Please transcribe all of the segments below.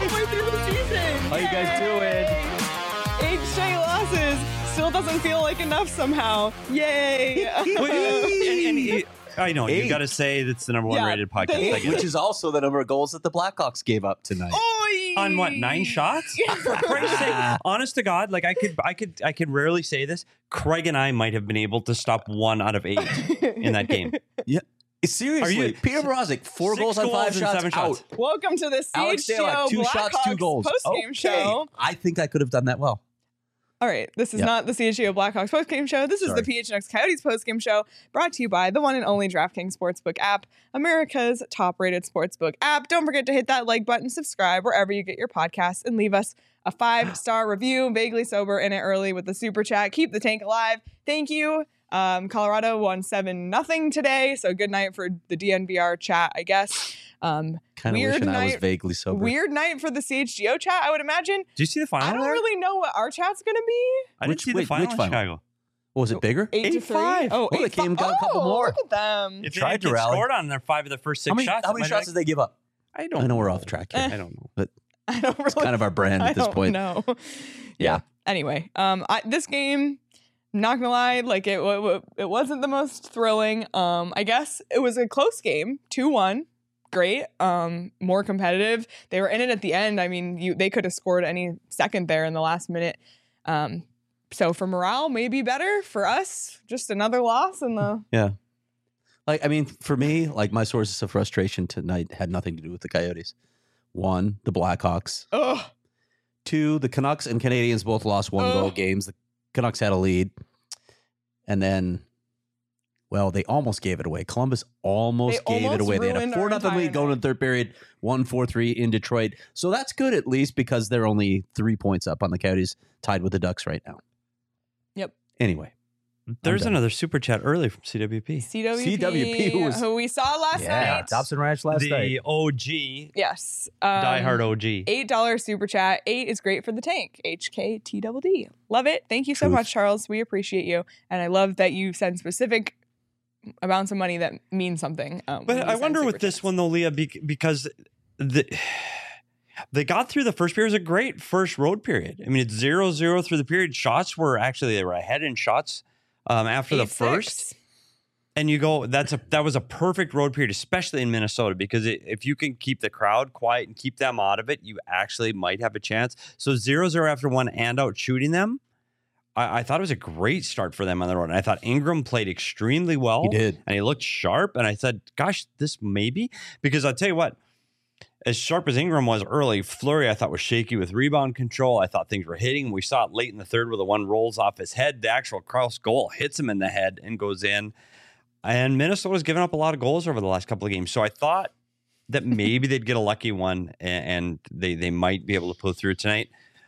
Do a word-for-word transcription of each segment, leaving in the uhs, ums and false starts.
halfway through the season. How you guys doing? Eight straight losses. Still doesn't feel like enough somehow. Yay. Wait, and, and, I know, Eight. you got to say that's the number one Yeah, rated podcast. they- Like, Which is also the number of goals that the Blackhawks gave up tonight. Oy. on what, nine shots? For Christ's sake, honest to God, like I could, I could, I could rarely say this. Craig and I might have been able to stop one out of eight in that game. Yeah. Seriously, Are you- Peter Mrazek, four Six goals on five goals and shots, seven out. shots. Welcome to the Alex C H G O Stalock, two shots, two Blackhawks goals. post-game Okay. show. I think I could have done that well. All right, this is Yep. not the C H G O Blackhawks postgame show. This is Sorry. the P H N X Coyotes postgame show, brought to you by the one and only DraftKings Sportsbook app, America's top-rated sportsbook app. Don't forget to hit that like button, subscribe wherever you get your podcasts, and leave us a five-star review. Vaguely sober in it early with the super chat. Keep the tank alive. Thank you. Um, Colorado won seven nothing today, so good night for the D N V R chat, I guess. Um, Kind of weird wishing I was night. vaguely sober. Weird night for the C H G O chat, I would imagine. Do you see the final? I don't there? really know what our chat's going to be. I didn't Which- see the wait, final which in final? Chicago. What, was it bigger? Eight, to Eight three. five. Oh, Oh, they eight came- fi- got a couple oh, more. Look at them. If they Tried had to kids rally. scored on their five of their first six How many, shots, how it many might shots have- did they give up? I don't. I know we're off track here. I don't know. But I don't really. it's kind of our brand I at this don't point. know. Yeah. Yeah. Anyway, um, I, this game, not gonna lie, like it, w- w- it wasn't the most thrilling. Um, I guess it was a close game, two one. Great. Um, more competitive. They were in it at the end. I mean, you they could have scored any second there in the last minute. Um, so for morale, maybe better. For us, just another loss in the. Yeah. Like, I mean, for me, like my sources of frustration tonight had nothing to do with the Coyotes. One, the Blackhawks. Ugh. Two, the Canucks and Canadians both lost one goal Ugh. games. The Canucks had a lead. And then, well, they almost gave it away. Columbus almost They gave it almost away. They had a ruined our four nothing entire lead going night. in the third period, one four three in Detroit. So that's good at least because they're only three points up on the Coyotes, tied with the Ducks right now. Yep. Anyway. There's done. another super chat early from C W P. C W P, C W P who was- who we saw last night. Dobson Ranch last the night. O G, Yes. Um, diehard O G. eight dollars super chat. Eight is great for the tank. H K T D D. Love it. Thank you so Truth. much, Charles. We appreciate you. And I love that you send specific amounts of money that mean something. Um, when But you I send wonder super with this chats. one though, Leah, bec- because the they got through the first period. It was a great first road period. I mean, it's zero zero through the period. Shots were actually they were ahead in shots um, after the Eight, first. six. And you go, that's a that was a perfect road period, especially in Minnesota, because it, if you can keep the crowd quiet and keep them out of it, you actually might have a chance. So zero zero after one and out shooting them, I, I thought it was a great start for them on the road. And I thought Ingram played extremely well. He did. And he looked sharp. And I said, gosh, this maybe, because I'll tell you what, as sharp as Ingram was early, Fleury I thought was shaky with rebound control. I thought things were hitting. We saw it late in the third where the one rolls off his head. The actual cross goal hits him in the head and goes in. And Minnesota's given up a lot of goals over the last couple of games. So I thought that maybe they'd get a lucky one and, and they they might be able to pull through tonight.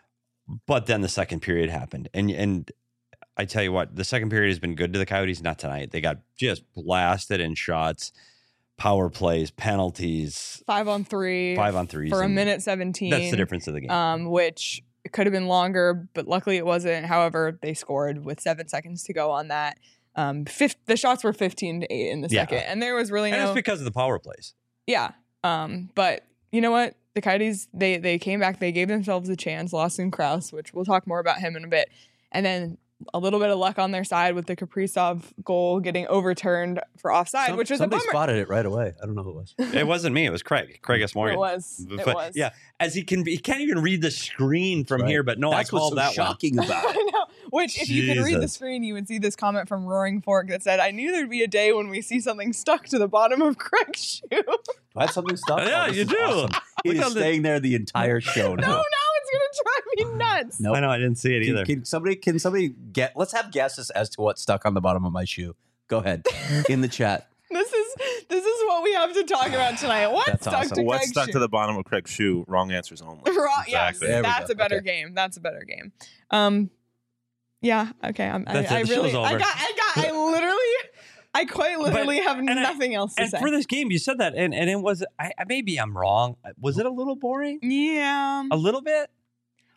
But then the second period happened. And and I tell you what, the second period has been good to the Coyotes, not tonight. They got just blasted in shots, power plays, penalties, Five on three. five on threes. For a and minute seventeen. That's the difference of the game. Um, which could have been longer, but luckily it wasn't. However, they scored with seven seconds to go on that. Um, fifth, the shots were fifteen to eight in the Yeah. second, and there was really and no. it's because of the power plays. Yeah. Um, but you know what? The Coyotes, they they came back, they gave themselves a chance, Lawson Krause, which we'll talk more about him in a bit. And then a little bit of luck on their side with the Kaprizov goal getting overturned for offside, Some- which was a somebody bummer. spotted it right away. I don't know who it was. It wasn't me. It was Craig. Craig S. Morgan. It was. It But, was. Yeah, as he can, he can't even read the screen from Right. here. But no, That's I called what's so that shocking about I it. know. Which, if you could read the Jesus. screen, you would see this comment from Roaring Fork that said, "I knew there'd be a day when we see something stuck to the bottom of Craig's shoe." Do I have something stuck? Yeah, Oh, this you is do. awesome. It Look is how the- staying there the entire show no, now. now it's gonna drive me nuts. Nope. I know I didn't see it Can, either. can somebody can somebody get? Let's have guesses as to what's stuck on the bottom of my shoe. Go ahead in the chat. This is this is what we have to talk about tonight. What's That's stuck awesome. to What's Craig's stuck shoe? to the bottom of Craig's shoe? Wrong answers only. Right, yes, Exactly. There we that's go. a better Okay. game. That's a better game. Um, yeah. Okay. I'm, I, That's it. I The show's really, I over. got, I got, I literally, I quite literally have and I- nothing else to And say. for this game, you said that, and, and it was I, I- maybe I'm wrong. Was it a little boring? yeah. A little bit.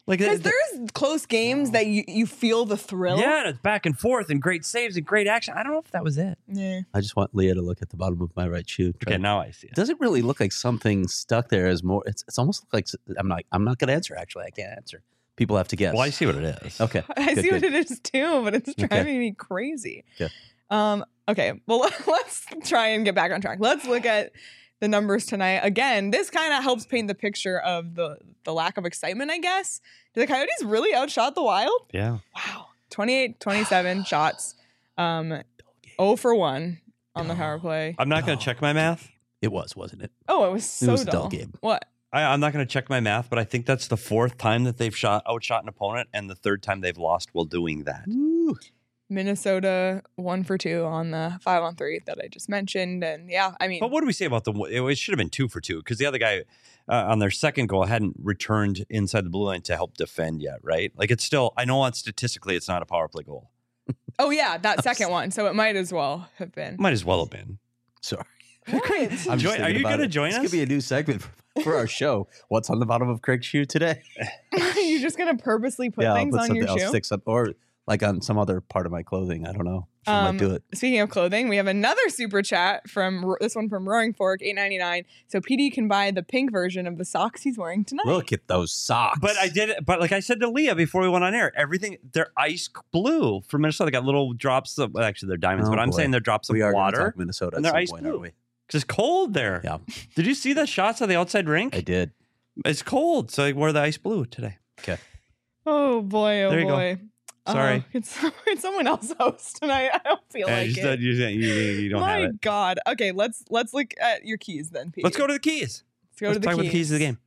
Like Because it- there's close games that you, you feel the thrill. yeah, and it's back and forth and great saves and great action. I don't know if that was it. Yeah. I just want Leah to look at the bottom of my right shoe. Try Okay, to- now I see It it. doesn't really look like something stuck there as more. It's it's almost like I'm not I'm not going to answer. Actually, I can't answer. People have to guess. Well, I see what it is. Okay. I good, see good. what it is too, but it's Okay. driving me crazy. Okay. Um, okay. Well, let's try and get back on track. Let's look at the numbers tonight. Again, this kind of helps paint the picture of the, the lack of excitement, I guess. Did the Coyotes really outshot the Wild? Yeah. Wow. twenty-eight twenty-seven shots. Um, zero for one on the power play. I'm not going No. to check my math. It was, wasn't it? Oh, it was so was a dull. dull game. What? I, I'm not going to check my math, but I think that's the fourth time that they've shot outshot an opponent, and the third time they've lost while doing that. Woo. Minnesota one for two on the five on three that I just mentioned. And yeah, I mean, But what do we say about the? It, it should have been two for two because the other guy uh, on their second goal hadn't returned inside the blue line to help defend yet, right? Like it's still. I know on statistically it's not a power play goal. oh yeah, that second one. So it might as well have been. Might as well have been. Sorry. What? I'm just Join- thinking are you about gonna it. join this us? Could be a new segment for, for our show. What's on the bottom of Craig's shoe today? You're just gonna purposely put yeah, things I'll put on your something. shoe. I'll stick some, or like on some other part of my clothing. I don't know. I Um, might do it. Speaking of clothing, we have another super chat from Ro- this one from Roaring Fork, eight ninety-nine. So P D can buy the pink version of the socks he's wearing tonight. Look at those socks. But I did it. But like I said to Leah before we went on air, everything they're ice blue from Minnesota. They got little drops of well, actually they're diamonds, Oh, but I'm boy. saying they're drops of we are going to water. talk Minnesota and at they're some ice point, blue. aren't we? Because it's cold there. Yeah, Did you see the shots of the outside rink? I did. It's cold, so I wore the ice blue today. Oh boy, oh There you go. boy. Sorry. Uh, it's, it's someone else host tonight. I don't feel Yeah, like you, it. said you, you, you don't My have it. God. Okay, let's let's look at your keys then, P D. Let's go to the keys. Let's go Let's to the talk keys. about the keys of the game.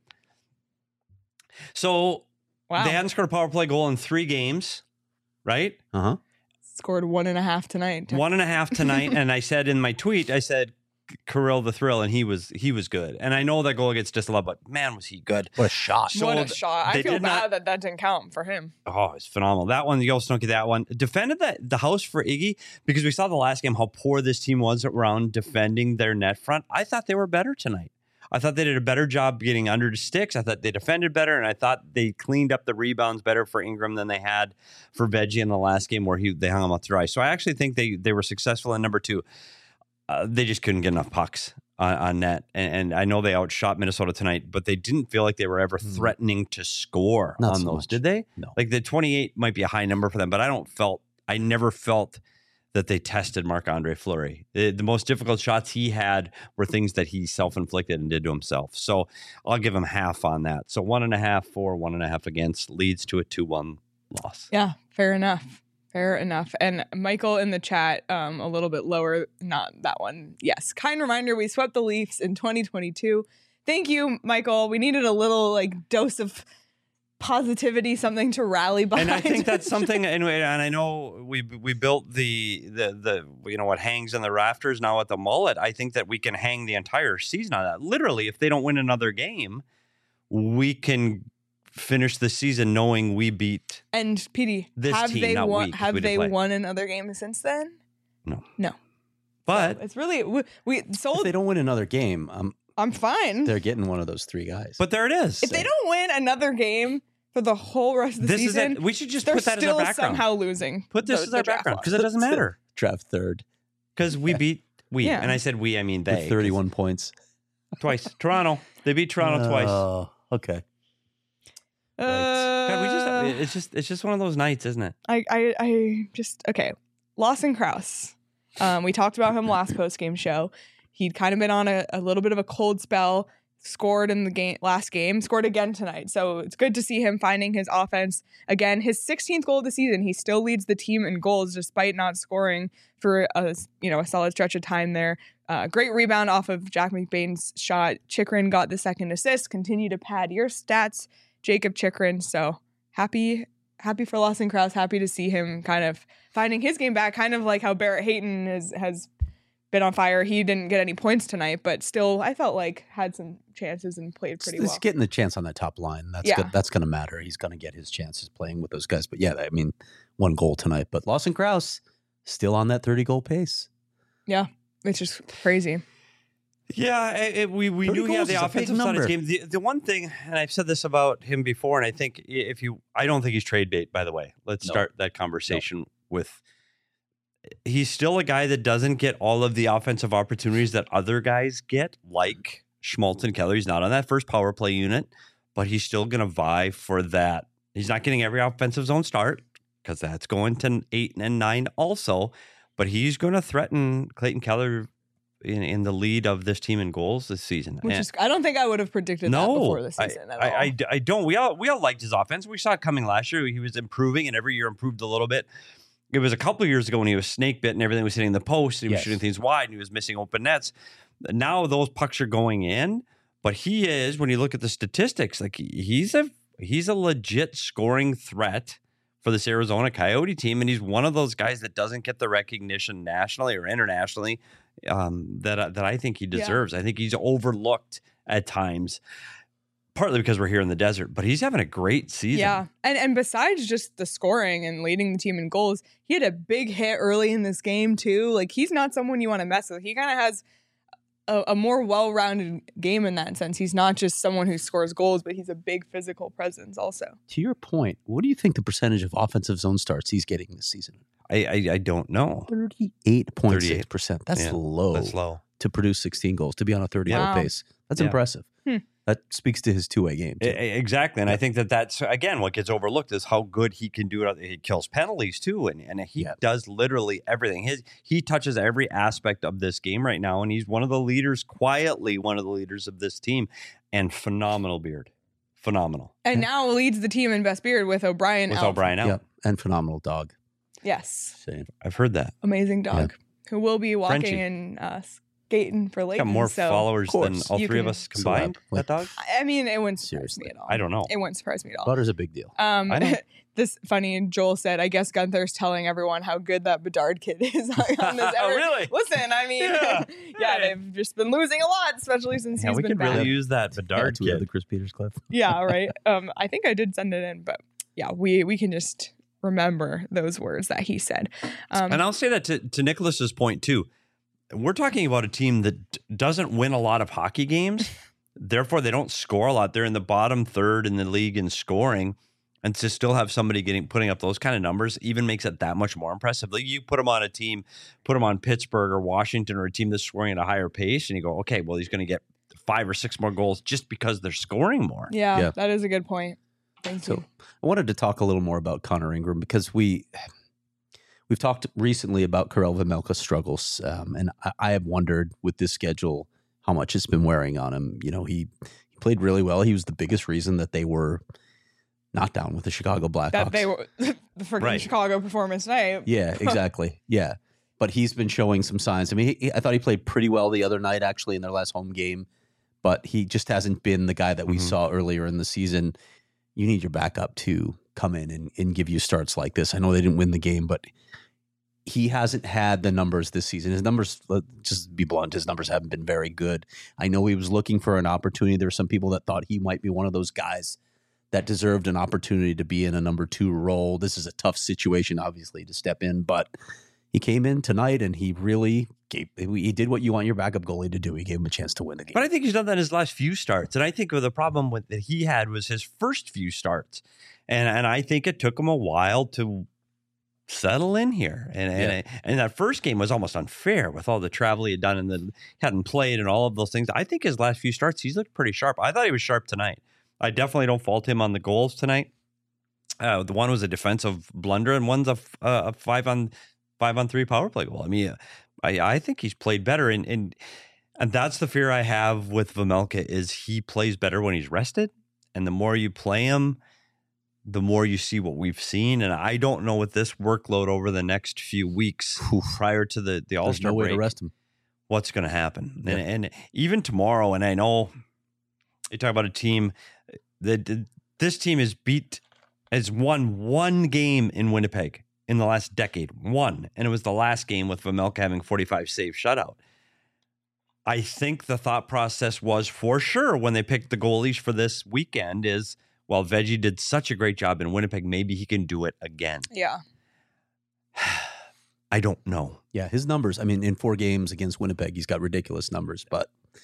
So Wow. they hadn't scored a power play goal in three games, right? Uh huh. Scored one and a half tonight. One and a half tonight. And I said in my tweet, I said Kirill the thrill, and he was he was good. And I know that goal against Disla, but man, was he good. What a shot! So what a th- shot. I they feel did bad not- that that didn't count for him. Oh, it's phenomenal. That one, you also don't get that one. Defended the, the house for Iggy because we saw the last game how poor this team was around defending their net front. I thought they were better tonight. I thought they did a better job getting under the sticks. I thought they defended better, and I thought they cleaned up the rebounds better for Ingram than they had for Veggie in the last game where he they hung him out to dry. So I actually think they they were successful in number two. Uh, they just couldn't get enough pucks on, on net, and, and I know they outshot Minnesota tonight, but they didn't feel like they were ever Hmm. threatening to score Not on so those, much. did they? No. Like the twenty-eight might be a high number for them, but I don't felt I never felt that they tested Marc-Andre Fleury. The, the most difficult shots he had were things that he self-inflicted and did to himself. So I'll give him half on that. So one and a half for, one and a half against leads to a two one loss. Yeah, fair enough. Fair enough. And Michael in the chat, um, a little bit lower, not that one. Yes. Kind reminder, we swept the Leafs in twenty twenty-two. Thank you, Michael. We needed a little like dose of positivity, something to rally behind. And I think that's something, and, and I know we we built the, the the you know what hangs in the rafters now at the mullet. I think that we can hang the entire season on that. Literally, if they don't win another game, we can finish the season knowing we beat. And P D, This have team, they not won? we, 'cause Have we didn't they play. won another game since then? No. No. But It's really we, we If sold. they don't win another game, um, I'm fine. they're getting one of those three guys. but there it is. If they don't win another game for the whole rest of the This is season, it. We should just they're put that as still our background. somehow losing. Put this the- as the our draft background lottery. because it doesn't matter. draft third Because we beat we, Yeah. and I said we, I mean they. with thirty-one points. twice. Toronto. They beat Toronto twice. Oh, okay. Uh, God, we just it's just it's just one of those nights, isn't it? I, I, I just okay. Lawson Krause. Um, we talked about him last post game show. He'd kind of been on a, a little bit of a cold spell. Scored in the game last game. Scored again tonight. So it's good to see him finding his offense again. His sixteenth goal of the season. He still leads the team in goals despite not scoring for a you know a solid stretch of time there. Uh, great rebound off of Jack McBain's shot. Chikrin got the second assist. Continue to pad your stats, Jacob Chikrin. So happy, happy for Lawson Krause. Happy to see him kind of finding his game back. Kind of like how Barrett Hayton has has been on fire. He didn't get any points tonight, but still, I felt like had some chances and played pretty He's well. getting the chance on that top line. That's Yeah. good. That's going to matter. He's going to get his chances playing with those guys. But yeah, I mean, one goal tonight. But Lawson Krause still on that thirty goal pace. It's just crazy. Yeah, it, it- we we thirty knew he had goals the is a big offensive side of his number. game. The, the one thing, and I've said this about him before, and I think if you, I don't think he's trade bait. By the way, let's No. start that conversation with. He's still a guy that doesn't get all of the offensive opportunities that other guys get, like Schmaltz and Keller. He's not on that first power play unit, but he's still going to vie for that. He's not getting every offensive zone start because that's going to eight and nine also, but he's going to threaten Clayton Keller in, in the lead of this team in goals this season. Which And- is, I don't think I would have predicted no, that before the I- season at I, all. I, I don't. We all we all liked his offense. We saw it coming last year. He was improving, and every year improved a little bit. It was a couple of years ago when he was snake bit and everything was hitting the post. And he was Yes. shooting things wide, and he was missing open nets. Now those pucks are going in, but he is, when you look at the statistics, like he's a he's a legit scoring threat for this Arizona Coyote team, and he's one of those guys that doesn't get the recognition nationally or internationally um, that that I think he Yeah. deserves. I think he's overlooked at times, partly because we're here in the desert, but he's having a great season. Yeah. And and besides just the scoring and leading the team in goals, he had a big hit early in this game too. Like he's not someone you want to mess with. He kind of has a, a more well-rounded game in that sense. He's not just someone who scores goals, but he's a big physical presence also. To your point, what do you think the percentage of offensive zone starts he's getting this season? I, I I don't know. thirty-eight point six percent. That's Yeah, low That's low. to produce sixteen goals, to be on a thirty goal Wow. pace. That's Yeah. impressive. Hmm. That speaks to his two-way game. E- too. e- Exactly, and I think that that's again what gets overlooked is how good he can do it. He kills penalties too, and, and he Yeah. does literally everything. His he touches every aspect of this game right now, and he's one of the leaders, quietly one of the leaders of this team, and phenomenal beard, phenomenal And now leads the team in best beard with O'Brien with out. O'Brien out. Yep. And phenomenal dog. Yes. Same. I've heard that. Amazing dog who will be walking Frenchie. and uh, skating for He's Leighton. got more so, followers than course. all You three of can- us combined. Celeb. That dog. I mean, it wouldn't surprise Seriously. me at all. I don't know. It wouldn't surprise me at all. Butter's a big deal. Um, I know. this funny. Joel said, "I guess Gunther's telling everyone how good that Bedard kid is on this." Oh, really? Listen, I mean, Yeah. yeah, Hey. they've just been losing a lot, especially since Yeah, he's we been could back. really use that Bedard yeah, kid. the Chris Peters clip. Yeah, right. Um, I think I did send it in, but yeah, we we can just remember those words that he said. Um, And I'll say that to, to Nicholas's point too. We're talking about a team that d- doesn't win a lot of hockey games. Therefore, they don't score a lot. They're in the bottom third in the league in scoring. And to still have somebody getting putting up those kind of numbers even makes it that much more impressive. Like you put them on a team, put them on Pittsburgh or Washington or a team that's scoring at a higher pace, and you go, okay, well, he's going to get five or six more goals just because they're scoring more. yeah, Yeah. that is a good point. Thank So you. I wanted to talk a little more about Connor Ingram because we we've talked recently about Karel Vejmelka's struggles, um, and I, I have wondered with this schedule how much it's been wearing on him. You know, he he played really well. He was the biggest reason that they were not down with the Chicago Blackhawks. That they were the freaking Right. Chicago performance tonight. Yeah, exactly. Yeah. But he's been showing some signs. I mean, he, he- I thought he played pretty well the other night, actually, in their last home game, but he just hasn't been the guy that we Mhm. saw earlier in the season. You need your backup to come in and, and give you starts like this. I know they didn't win the game, but he hasn't had the numbers this season. His numbers, let's just be blunt, his numbers haven't been very good. I know he was looking for an opportunity. There were some people that thought he might be one of those guys that deserved an opportunity to be in a number two role. This is a tough situation, obviously, to step in, but he came in tonight and he really gave, he did what you want your backup goalie to do. He gave him a chance to win the game. But I think he's done that in his last few starts. And I think the problem with, that he had was his first few starts. And and I think it took him a while to settle in here. And and, and that first game was almost unfair with all the travel he had done and the hadn't played and all of those things. I think his last few starts, he's looked pretty sharp. I thought he was sharp tonight. I definitely don't fault him on the goals tonight. Uh, the one was a defensive blunder and one's a, f- uh, a five on five on three power play goal. I mean, I, I think he's played better. And, and and that's the fear I have with Vejmelka is he plays better when he's rested. And the more you play him, the more you see what we've seen. And I don't know with this workload over the next few weeks Oof. prior to the, the There's All-Star no way break, to rest him. what's going to happen. Yeah. And, and even tomorrow, and I know you talk about a team that this team has beat, has won one game in Winnipeg in the last decade. One. And it was the last game with Vejmelka having forty-five save shutout. I think the thought process was for sure when they picked the goalies for this weekend is, well, Veggie did such a great job in Winnipeg, maybe he can do it again. Yeah. I don't know. Yeah, his numbers, I mean, in four games against Winnipeg, he's got ridiculous numbers, but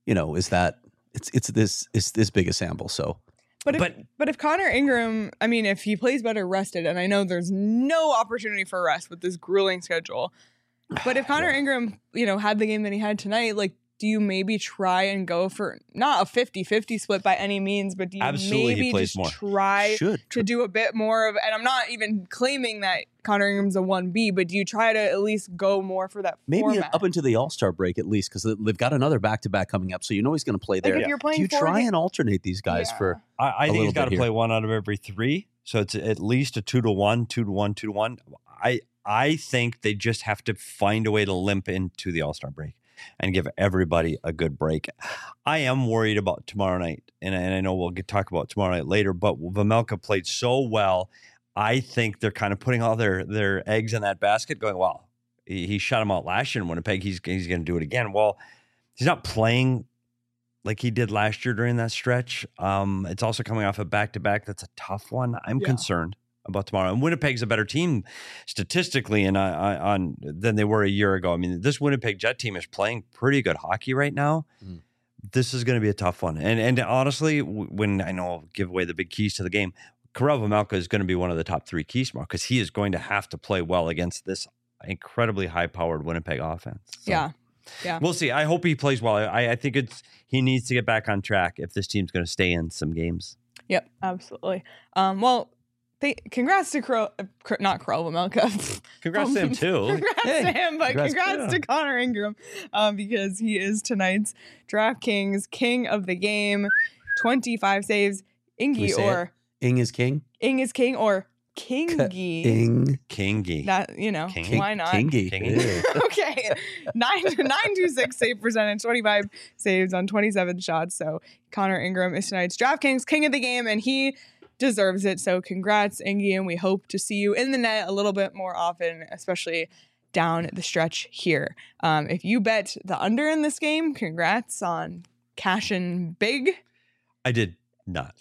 you know, is that it's it's this it's this big a sample. So, But if, But- but if Connor Ingram, I mean, if he plays better rested, and I know there's no opportunity for rest with this grueling schedule, but if Connor Yeah. Ingram, you know, had the game that he had tonight, like, do you maybe try and go for not a fifty-fifty split by any means, but do you Absolutely, he maybe plays just more. try should to do a bit more of, and I'm not even claiming that Connor Ingram's a one B, but do you try to at least go more for that maybe format? up into the All Star break at least, because they've got another back to back coming up, so you know he's going to play like there. if you're playing Do you four try ga- and alternate these guys Yeah. for? I, I think little he's got to bit play here. one out of every three. So it's at least a two to one, two to one, two to one. I I think they just have to find a way to limp into the All Star break and give everybody a good break. I am worried about tomorrow night, and, and I know we'll get talk about tomorrow night later. But Vejmelka played so well. I think they're kind of putting all their their eggs in that basket, going, "Well, he, he shut him out last year in Winnipeg. He's he's going to do it again." Well, he's not playing like he did last year during that stretch. Um, it's also coming off a back to back. That's a tough one. I'm Yeah. concerned about tomorrow. And Winnipeg's a better team statistically, and I, I, on than they were a year ago. I mean, this Winnipeg Jet team is playing pretty good hockey right now. Mm. This is going to be a tough one. And and honestly, w- when I know I'll give away the big keys to the game, Karel Vejmelka is going to be one of the top three keys tomorrow because he is going to have to play well against this incredibly high-powered Winnipeg offense. So Yeah. Yeah. we'll see. I hope he plays well. I, I think it's he needs to get back on track if this team's going to stay in some games. Yep, absolutely. Um, well, they, congrats to Crow, uh, Cro- not Crow Vejmelka. Congrats to him too. Congrats Hey, to him, but congrats- congrats, yeah. to Connor Ingram um, because he is tonight's DraftKings king of the game. twenty-five saves. we Ingy say or Ing is king. Ing is king or Kingy. Ing. Kingy. That, you know, King- why not? Kingy. Kingy. Yeah. Okay. Nine nine two six save percentage, twenty-five saves on twenty-seven shots. So Connor Ingram is tonight's DraftKings king of the game, and he deserves it. So congrats, Ingy, and we hope to see you in the net a little bit more often, especially down the stretch here. Um, if you bet the under in this game, congrats on cashing big. I did not.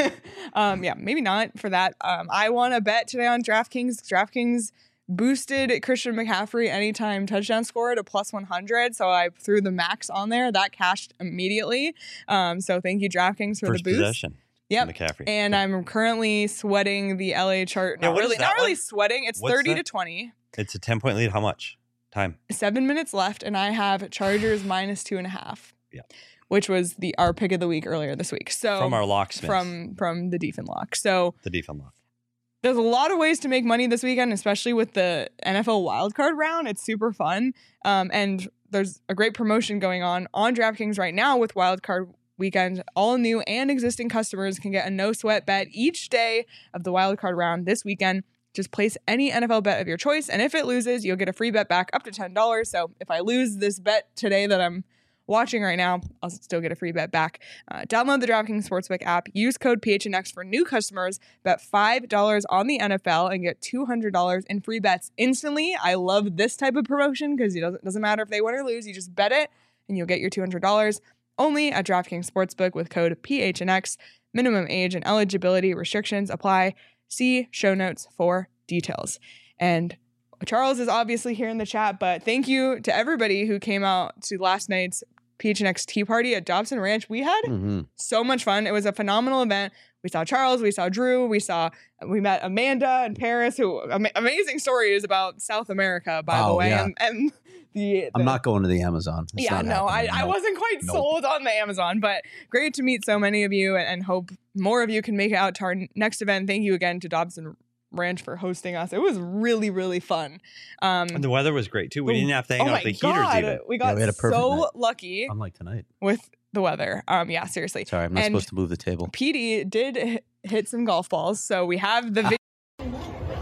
um, yeah, maybe not for that. Um, I want to bet today on DraftKings. DraftKings boosted Christian McCaffrey anytime touchdown score to plus one hundred. So I threw the max on there. That cashed immediately. Um, so thank you, DraftKings, for First the boost. possession. Yep. McCaffrey. And I'm currently sweating the L A chart. Yeah, Not what is really, that not really one? sweating. It's What's thirty to that? twenty. It's a ten point lead. How much time? Seven minutes left, and I have Chargers minus two and a half. Yeah. Which was the our pick of the week earlier this week. So From our locksmith. from from the Deef and Lock. So the defense lock. there's a lot of ways to make money this weekend, especially with the N F L wildcard round. It's super fun. Um, and there's a great promotion going on on DraftKings right now with wildcard weekend. All new and existing customers can get a no sweat bet each day of the wildcard round this weekend. Just place any N F L bet of your choice, and if it loses, you'll get a free bet back up to ten dollars. So if I lose this bet today that I'm watching right now, I'll still get a free bet back. Uh, download the DraftKings Sportsbook app. Use code P H N X for new customers. Bet five dollars on the N F L and get two hundred dollars in free bets instantly. I love this type of promotion because it doesn't, doesn't matter if they win or lose. You just bet it, and you'll get your two hundred dollars. Only at DraftKings Sportsbook with code P H N X. Minimum age and eligibility restrictions apply. See show notes for details. And Charles is obviously here in the chat, but thank you to everybody who came out to last night's P H N X tea party at Dobson Ranch. We had Mhm. so much fun. It was a phenomenal event. We saw Charles, we saw Drew, we saw, we met Amanda and Paris, who ama- amazing stories about South America, by the Wow, way. yeah. And, and the, I'm the- not going to the Amazon. It's yeah, not no, I, happening. I No. wasn't quite Nope. sold on the Amazon, but great to meet so many of you and, and hope more of you can make it out to our next event. Thank you again to Dobson Ranch for hosting us. It was really, really fun. Um, And the weather was great too. We Oh, didn't have to hang oh out my with the heaters God, even. we got we had a perfect so night. lucky Unlike tonight. with the weather. Um, yeah, seriously. Sorry, I'm not And- supposed to move the table. P D did hit, hit some golf balls, so we have the video.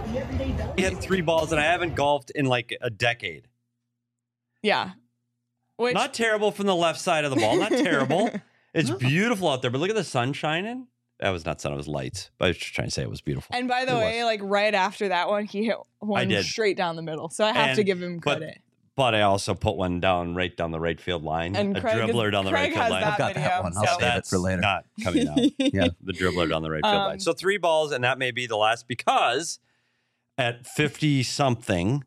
We had three balls, and I haven't golfed in like a decade. Yeah. Which, Not terrible from the left side of the ball. Not terrible. It's beautiful out there, but look at the sun shining. That was not sun; it was lights. But I was just trying to say it was beautiful. and by the It way, was. like right after that one, he hit one did. straight down the middle. So I have to And- give him but credit. But I also put one down right down the right field line. And a Craig is- dribbler down the Craig right field has line. that I've got video, that one. I'll so- save it for later. Not coming out. Yeah. The dribbler down the right field Um, line. So three balls, and that may be the last because at fifty something,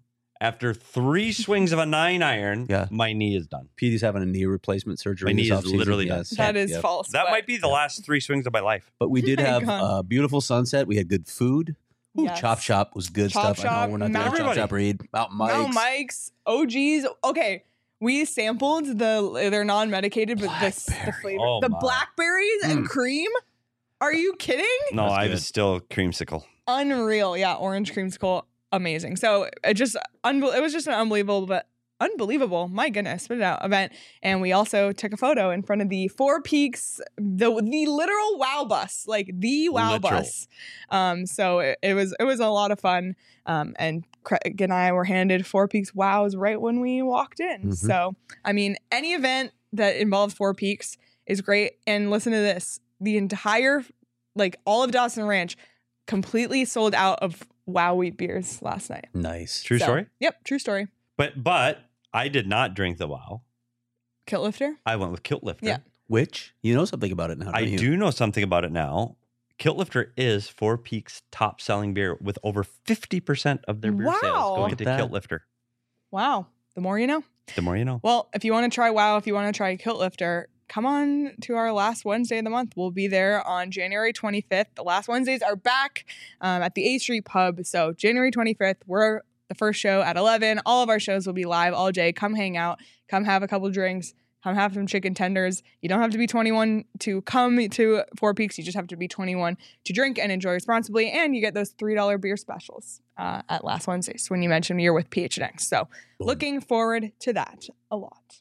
After three swings of a nine iron, Yeah. my knee is done. Petey's having a knee replacement surgery. My knee this is offseason. literally Yes. That is Yep. false. That but might be the last three swings of my life. But we did My have God. a beautiful sunset. We had good food. Ooh, Yes. Chop Shop was good Chop stuff. I Shop, know we're not doing Mount- Chop Everybody. Shop read. Mountain Mike's. Mount Mike's, O Gs. Okay, we sampled the they're non-medicated, but this the Blackberry. flavor, Oh the my. blackberries and Mm. cream. Are you kidding? No, That's I good. was still creamsicle. Unreal. Yeah, orange creamsicle, amazing. So it just unbel- it was just an unbelievable, but unbelievable. My goodness, spit it out event. And we also took a photo in front of the Four Peaks, the the literal wow bus, like the wow Literal. bus. Um, so it, it was it was a lot of fun. Um, and Craig and I were handed Four Peaks wows right when we walked in. Mhm. So I mean, any event that involves Four Peaks is great. And listen to this: the entire, like all of Dawson Ranch, completely sold out of Wow wheat beers last night. Nice. True So, story. Yep, true story. But but I did not drink the wow. Kilt lifter. I went with Kilt Lifter. Yeah. Which you know something about it now. I don't you? do know something about it now. Kilt Lifter is Four Peaks' top selling beer with over fifty percent of their beer Wow. sales Look going at to that. Kilt Lifter. Wow. The more you know. The more you know. Well, if you want to try Wow, if you want to try Kilt Lifter, come on to our last Wednesday of the month. We'll be there on January twenty-fifth. The last Wednesdays are back um, at the A Street Pub. So January twenty-fifth, we're the first show at eleven. All of our shows will be live all day. Come hang out. Come have a couple drinks. Come have some chicken tenders. You don't have to be twenty-one to come to Four Peaks. You just have to be twenty-one to drink and enjoy responsibly. And you get those three dollar beer specials uh, at last Wednesdays when you mention you're with P H N X. So Boom. looking forward to that a lot.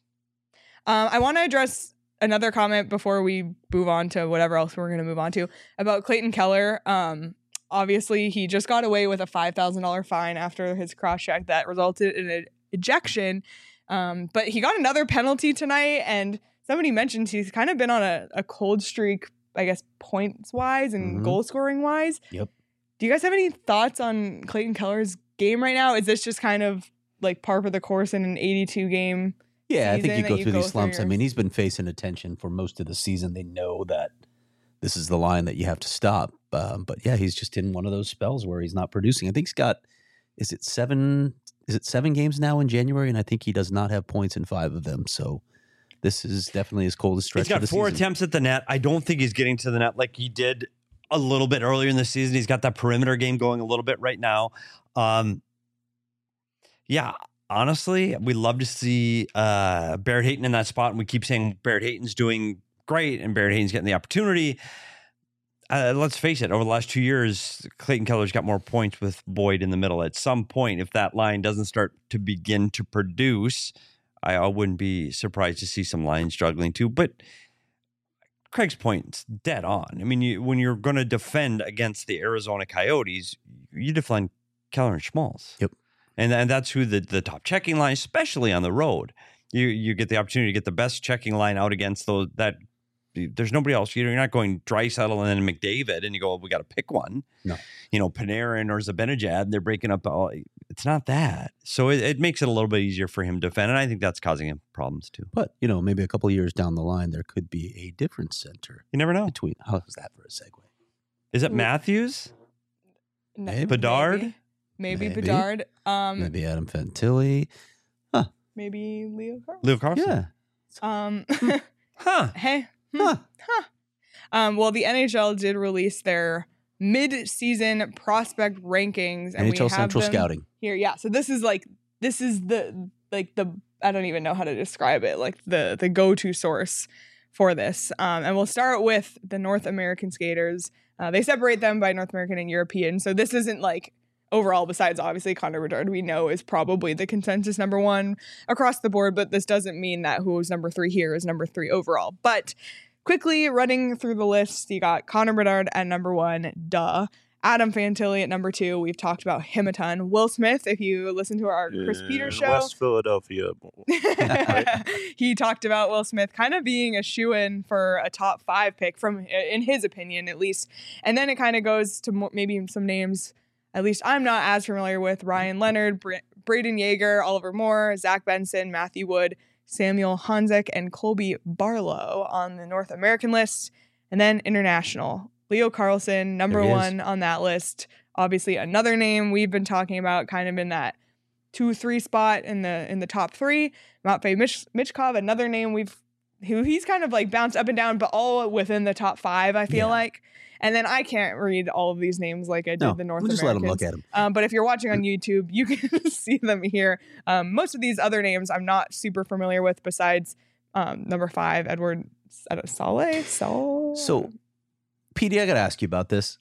Um, I want to address another comment before we move on to whatever else we're going to move on to about Clayton Keller. Um, obviously, he just got away with a five thousand dollars fine after his cross check that resulted in an ejection. Um, but he got another penalty tonight, and somebody mentioned he's kind of been on a, a cold streak, I guess, points wise and Mhm. goal scoring wise. Yep. Do you guys have any thoughts on Clayton Keller's game right now? Is this just kind of like par for the course in an eighty-two game? Yeah, I think season you that go you through go these through slumps. I your- mean, he's been facing attention for most of the season. They know that this is the line that you have to stop. Um, but yeah, he's just in one of those spells where he's not producing. I think he's got, is it seven? Is it seven games now in January? And I think he does not have points in five of them. So this is definitely his coldest stretch. He's got of the four season. attempts at the net. I don't think he's getting to the net like he did a little bit earlier in the season. He's got that perimeter game going a little bit right now. Um, yeah, honestly, we love to see uh, Barrett Hayton in that spot. And we keep saying Barrett Hayton's doing great and Barrett Hayton's getting the opportunity. Uh, let's face it, over the last two years, Clayton Keller's got more points with Boyd in the middle. At some point, if that line doesn't start to begin to produce, I, I wouldn't be surprised to see some lines struggling too. But Craig's point's dead on. I mean, you, when you're going to defend against the Arizona Coyotes, you defend Keller and Schmaltz. Yep. And, and that's who the, the top checking line, especially on the road. You you get the opportunity to get the best checking line out against those that there's nobody else. You're not going Draisaitl and then McDavid, and you go, well, we got to pick one. No. You know, Panarin or Zibanejad, they're breaking up. All, it's not that. So it, it makes it a little bit easier for him to defend, and I think that's causing him problems too. But, you know, maybe a couple of years down the line, there could be a different center You never know. between. How's that for a segue? Is it Ooh. Matthews? No, Maybe. Bedard? Maybe, maybe, Maybe. Bedard. Um, maybe, Maybe Adam Fantilli. Leo Carl. Leo Carlson? Yeah. Um, Huh. hey. hmm, Huh. Huh. Um, well, the N H L did release their mid-season prospect rankings, and N we H L have Central them Scouting. here. Yeah, so this is like this is the like the I don't even know how to describe it. Like the the go-to source for this. Um, and we'll start with the North American skaters. Uh, they separate them by North American and European. So this isn't like overall, besides obviously Connor Bedard, we know is probably the consensus number one across the board, but this doesn't mean that who's number three here is number three overall. But quickly running through the list, you got Connor Bedard at number one, duh. Adam Fantilli at number two. We've talked about him a ton. Will Smith, if you listen to our Chris In Peters show. West Philadelphia. He talked about Will Smith kind of being a shoo-in for a top five pick, from in his opinion at least. And then it kind of goes to more, maybe some names at least I'm not as familiar with: Ryan Leonard, Bra- Braden Yeager, Oliver Moore, Zach Benson, Matthew Wood, Samuel Honzek, and Colby Barlow on the North American list. And then international, Leo Carlson, number There he is. one on that list. Obviously another name we've been talking about, kind of in that two, three spot in the in the top three. Matvei Mich- Michkov, another name we've who he's kind of like bounced up and down, but all within the top five, I feel Yeah. like. And then I can't read all of these names like I did No, the North we'll just let them Americans. look at them. Um, but if you're watching on YouTube, you can see them here. Um, most of these other names I'm not super familiar with besides um, number five, Edward Saleh. Sol- So, P D, I got to ask you about this.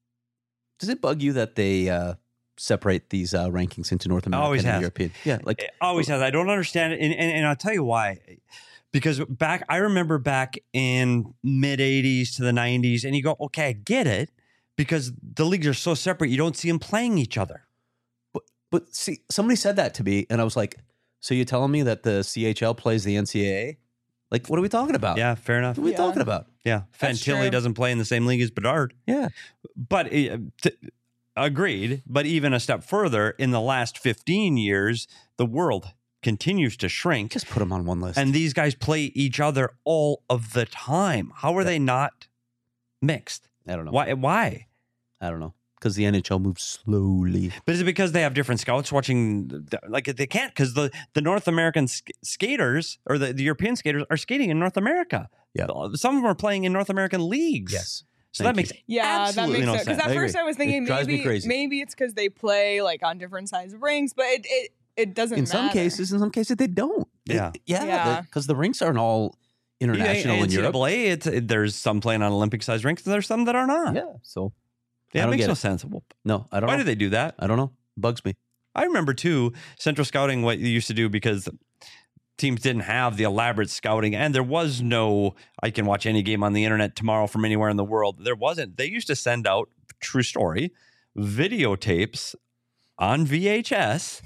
Does it bug you that they uh, separate these uh, rankings into North American Always and has. European? Yeah, like It always has. I don't understand it. And, and, and I'll tell you why. Because back, I remember back in mid eighties to the nineties, and you go, okay, I get it. Because the leagues are so separate, you don't see them playing each other. But but see, somebody said that to me, and I was like, "So you're telling me that the C H L plays the N C A A? Like, what are we talking about? Yeah, fair enough. What are we Yeah. talking about? Yeah, That's Fantilli true. doesn't play in the same league as Bedard. Yeah, But uh, t- agreed. But even a step further, in the last fifteen years, the world continues to shrink. just put them on one list. And these guys play each other all of the time. How are Yeah. they not mixed? I don't know. Why? Why? I don't know because the N H L moves slowly. But is it because they have different scouts watching? the- Like they can't because the, the North American sk- skaters or the, the European skaters are skating in North America. Yeah. Some of them are playing in North American leagues. Yes. So Thank that you. makes Yeah, that absolutely makes no sense. Because sense. at I first agree. I was thinking It drives me maybe crazy. maybe it's because they play like on different size of rinks, but it it, it doesn't In matter. some cases, in some cases they don't. They- Yeah. yeah, Yeah. because the rinks aren't all international in Europe. N C double A, it's, it, there's some playing on Olympic sized rinks, and there's some that are not. Yeah, so Yeah, I it don't makes get no it. sense. Well, no, I don't why know. do they do that? I don't know. Bugs me. I remember too, Central Scouting, what you used to do because teams didn't have the elaborate scouting and there was no, I can watch any game on the internet tomorrow from anywhere in the world. There wasn't. They used to send out, true story, videotapes on V H S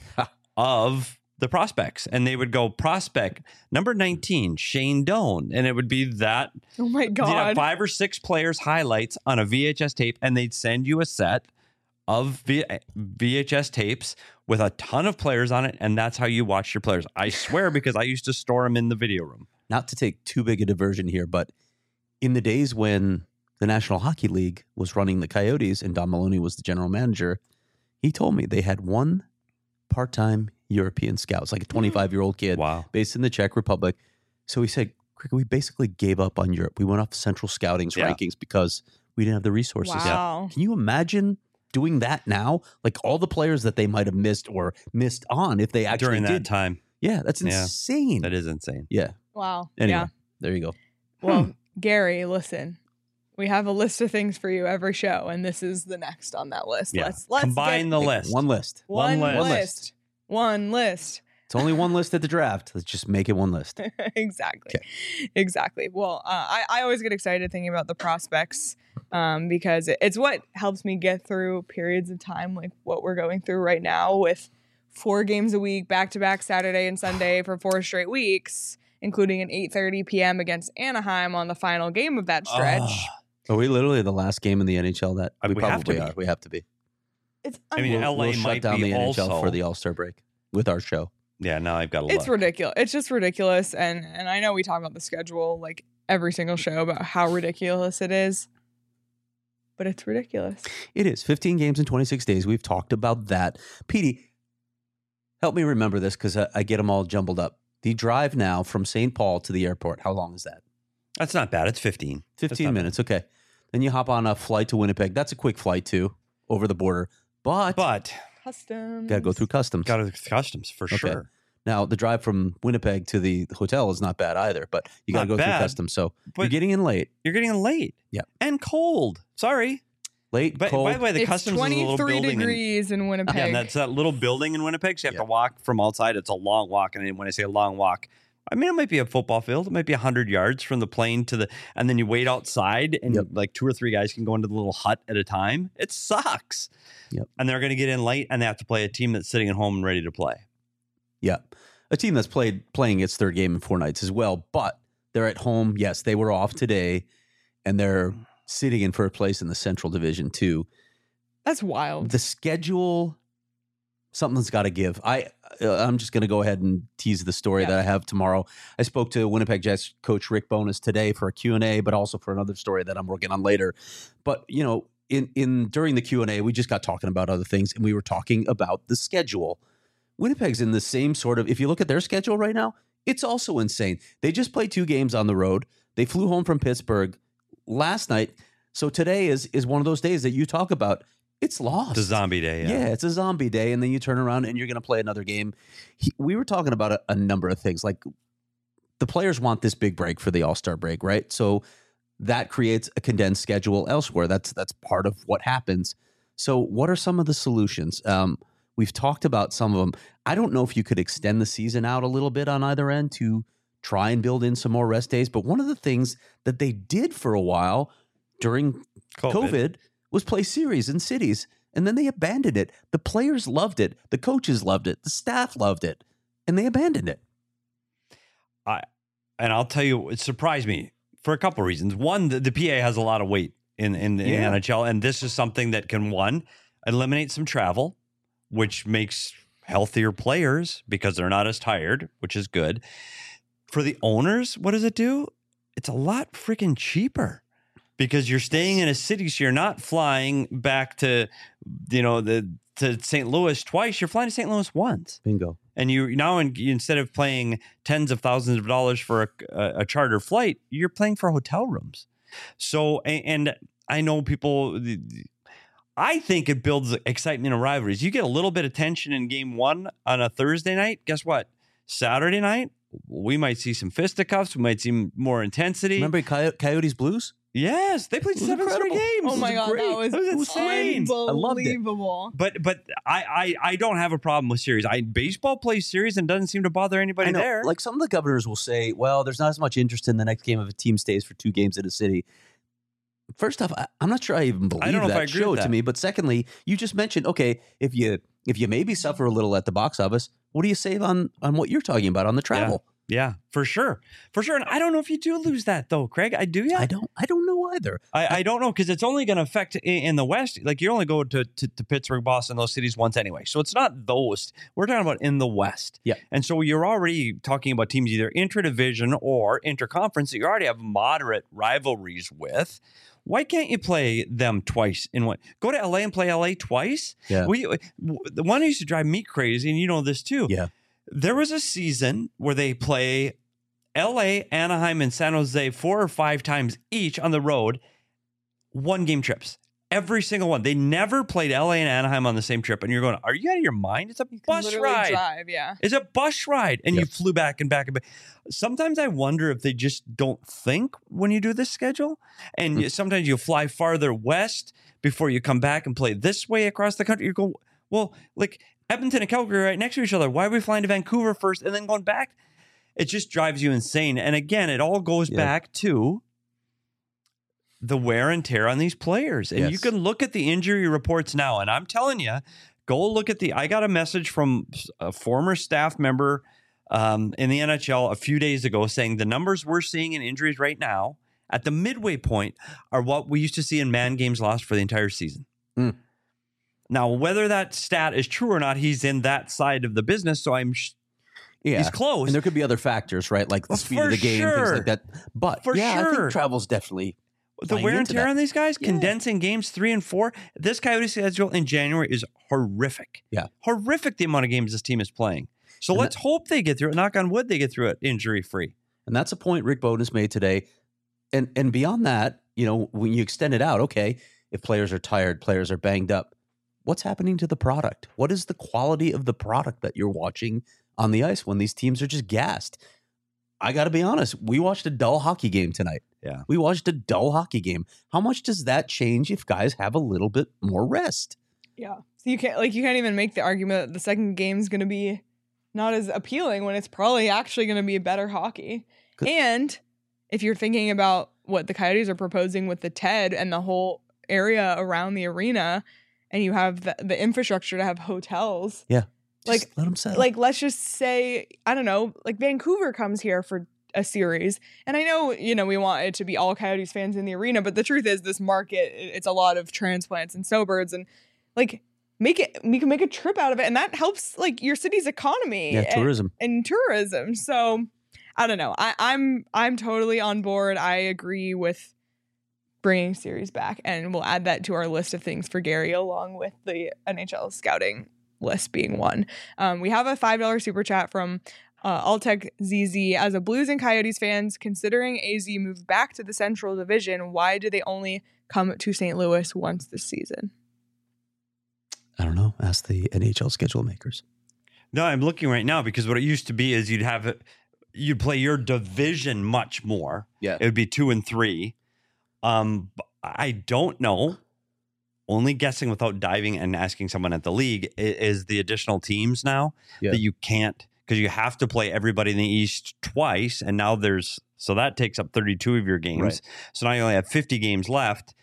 of the prospects. And they would go prospect number nineteen, Shane Doan. And it would be that. Oh my You'd have god. five or six players highlights on a V H S tape and they'd send you a set of v- VHS tapes with a ton of players on it, and that's how you watch your players. I swear, because I used to store them in the video room. Not to take too big a diversion here, but in the days when the National Hockey League was running the Coyotes and Don Maloney was the general manager, he told me they had one part-time European scout. It's like a twenty-five-year-old kid Wow. based in the Czech Republic. So he said, "Cricket, we basically gave up on Europe. We went off Central Scouting's Yeah. rankings because we didn't have the resources." Wow. Can you imagine doing that now? Like all the players that they might have missed or missed on if they actually During that did. time. Yeah, that's Yeah. insane. That is insane. Yeah. Wow. Anyway, Yeah. there you go. Well, Gary, listen. We have a list of things for you every show, and this is the next on that list. Yeah. Let's let's Combine get the list. One list. one, one list. list. One list. It's only one list at the draft. Let's just make it one list. exactly. Exactly. Well, uh, I, I always get excited thinking about the prospects um, because it- it's what helps me get through periods of time like what we're going through right now with four games a week, back to back Saturday and Sunday for four straight weeks, including an eight thirty p.m. against Anaheim on the final game of that stretch. Ah. Are we literally the last game in the N H L that Uh, we, we have probably to be. are? We have to be. It's I mean, unbelievable. L A we'll shut might down be the N H L also- for the All Star break with our show. Yeah, now I've got to It's look. ridiculous. It's just ridiculous. And and I know we talk about the schedule like every single show about how ridiculous it is. But it's ridiculous. It is fifteen games in twenty-six days. We've talked about that. Petey, help me remember this because I, I get them all jumbled up. The drive now from Saint Paul to the airport, how long is that? That's not bad. It's fifteen. That's fifteen not minutes. Okay. Then you hop on a flight to Winnipeg. That's a quick flight too, over the border. But, But Customs. got to go through customs. got to customs for Okay. sure. Now, the drive from Winnipeg to the hotel is not bad either, but you got to Not go bad, through customs. So but- you're getting in late. You're getting late. Yeah. And cold. Sorry. Late, But cold. by the way, the It's customs is a little twenty-three building. in- degrees in Winnipeg. Yeah, and that's that little building in Winnipeg. So you have Yeah. to walk from outside. It's a long walk. And then when I say a long walk, I mean, it might be a football field. It might be one hundred yards from the plane to the, and then you wait outside and Yep. like two or three guys can go into the little hut at a time. It sucks. Yep. And they're going to get in late and they have to play a team that's sitting at home and ready to play. Yeah. A team that's played playing its third game in four nights as well, but they're at home. Yes, they were off today, and they're sitting in first place in the Central Division too. That's wild. The schedule, something's got to give. I uh, I'm just going to go ahead and tease the story Yeah. that I have tomorrow. I spoke to Winnipeg Jets coach Rick Bowness today for a Q and A, but also for another story that I'm working on later. But you know, in in during the Q and A, we just got talking about other things, and we were talking about the schedule. Winnipeg's in the same sort of, if you look at their schedule right now, it's also insane. They just played two games on the road. They flew home from Pittsburgh last night. So today is is one of those days that you talk about. It's lost. It's a zombie day. Yeah. Yeah, it's a zombie day. And then you turn around and you're going to play another game. He, we were talking about a, a number of things. Like the players want this big break for the All-Star break, right? So that creates a condensed schedule elsewhere. That's that's part of what happens. So what are some of the solutions? Um, we've talked about some of them. I don't know if you could extend the season out a little bit on either end to try and build in some more rest days. But one of the things that they did for a while during COVID, COVID was play series in cities, and then they abandoned it. The players loved it. The coaches loved it. The staff loved it, and they abandoned it. I and I'll tell you, it surprised me for a couple of reasons. One, the, the P A has a lot of weight in in the Yeah. N H L, and this is something that can one eliminate some travel, which makes healthier players because they're not as tired, which is good. For the owners, what does it do? It's a lot freaking cheaper because you're staying in a city, so you're not flying back to, you know, the to Saint Louis twice. You're flying to Saint Louis once. Bingo. And you now, in, instead of paying tens of thousands of dollars for a, a, a charter flight, you're paying for hotel rooms. So, and, and I know people, I think it builds excitement and rivalries. You get a little bit of tension in game one on a Thursday night. Guess what? Saturday night, we might see some fisticuffs. We might see more intensity. Remember Coy- Coyotes Blues? Yes, they played It was seven straight incredible. games. Oh my was god, great. that was, It was insane. I loved it. unbelievable. But but I, I I don't have a problem with series. I baseball plays series and doesn't seem to bother anybody I know, there. like some of the governors will say, well, there's not as much interest in the next game if a team stays for two games in a city. First off, I, I'm not sure I even believe I don't know if I that agree show with to that. me. But secondly, you just mentioned, okay, if you if you maybe suffer a little at the box office, what do you save on on what you're talking about on the travel? Yeah, for sure, for sure. And I don't know if you do lose that though, Craig. I do. Yeah, I don't I don't know either. I, I don't know because it's only going to affect in, in the West. Like you only go to, to to Pittsburgh, Boston, those cities once anyway. So it's not those. We're talking about in the West. Yeah. And so you're already talking about teams either intra-division or interconference that you already have moderate rivalries with. Why can't you play them twice in one? Go to L A and play L A twice. Yeah. We the one that used to drive me crazy, and you know this too. Yeah. There was a season where they play L A, Anaheim, and San Jose four or five times each on the road, one game trips. Every single one. They never played L A and Anaheim on the same trip. And you're going, are you out of your mind? It's a You can bus literally ride. drive, yeah. It's a bus ride. And Yep. you flew back and back and back. Sometimes I wonder if they just don't think when you do this schedule. And Hmm. you- sometimes you fly farther west before you come back and play this way across the country. You go, well, like Edmonton and Calgary are right next to each other. Why are we flying to Vancouver first and then going back? It just drives you insane. And again, it all goes Yeah. back to the wear and tear on these players. And you Yes. can look at the injury reports now. And I'm telling you, go look at the. I got a message from a former staff member um, in the N H L a few days ago saying the numbers we're seeing in injuries right now at the midway point are what we used to see in man games lost for the entire season. Mm. Now, whether that stat is true or not, he's in that side of the business. So I'm. Sh- Yeah. He's close. And there could be other factors, right? Like the Well, speed for of the game, things sure. like that. But For yeah, I sure. think travel's definitely The playing wear and into tear that. on these guys, Yeah. condensing games three and four. This Coyote schedule in January is horrific. Yeah. Horrific the amount of games this team is playing. So And let's hope they get through it. Knock on wood, they get through it injury free. And that's a point Rick Bonus made today. And and beyond that, you know, when you extend it out, okay, if players are tired, players are banged up, what's happening to the product? What is the quality of the product that you're watching on the ice when these teams are just gassed? I got to be honest, we watched a dull hockey game tonight. Yeah. We watched a dull hockey game. How much does that change if guys have a little bit more rest? Yeah. So you can't like you can't even make the argument that the second game's gonna be not as appealing when it's probably actually gonna be better hockey. Good. And if you're thinking about what the Coyotes are proposing with the T E D and the whole area around the arena, and you have the, the infrastructure to have hotels, Yeah. Like- Just let them settle. like let's just say, I don't know, like Vancouver comes here for a series. And I know, you know, we want it to be all Coyotes fans in the arena, but the truth is this market, it- it's a lot of transplants and snowbirds, and like make it, we can make a trip out of it. And that helps like your city's economy yeah, and, tourism. and tourism. So I don't know. I, I'm, I'm totally on board. I agree with bringing series back, and we'll add that to our list of things for Gary along with the N H L scouting list being one. Um, we have a five dollars super chat from uh, Altec Z Z. As a Blues and Coyotes fans, considering A Z moved back to the Central Division, why do they only come to Saint Louis once this season? I don't know. Ask the N H L schedule makers. No, I'm looking right now because what it used to be is you'd have it, you'd play your division much more. Yeah. It would be two and three. Um, I don't know. Only guessing without diving and asking someone at the league i- is the additional teams now Yeah. that you can't, because you have to play everybody in the East twice. And now there's, so that takes up thirty-two of your games. Right. So now you only have fifty games left.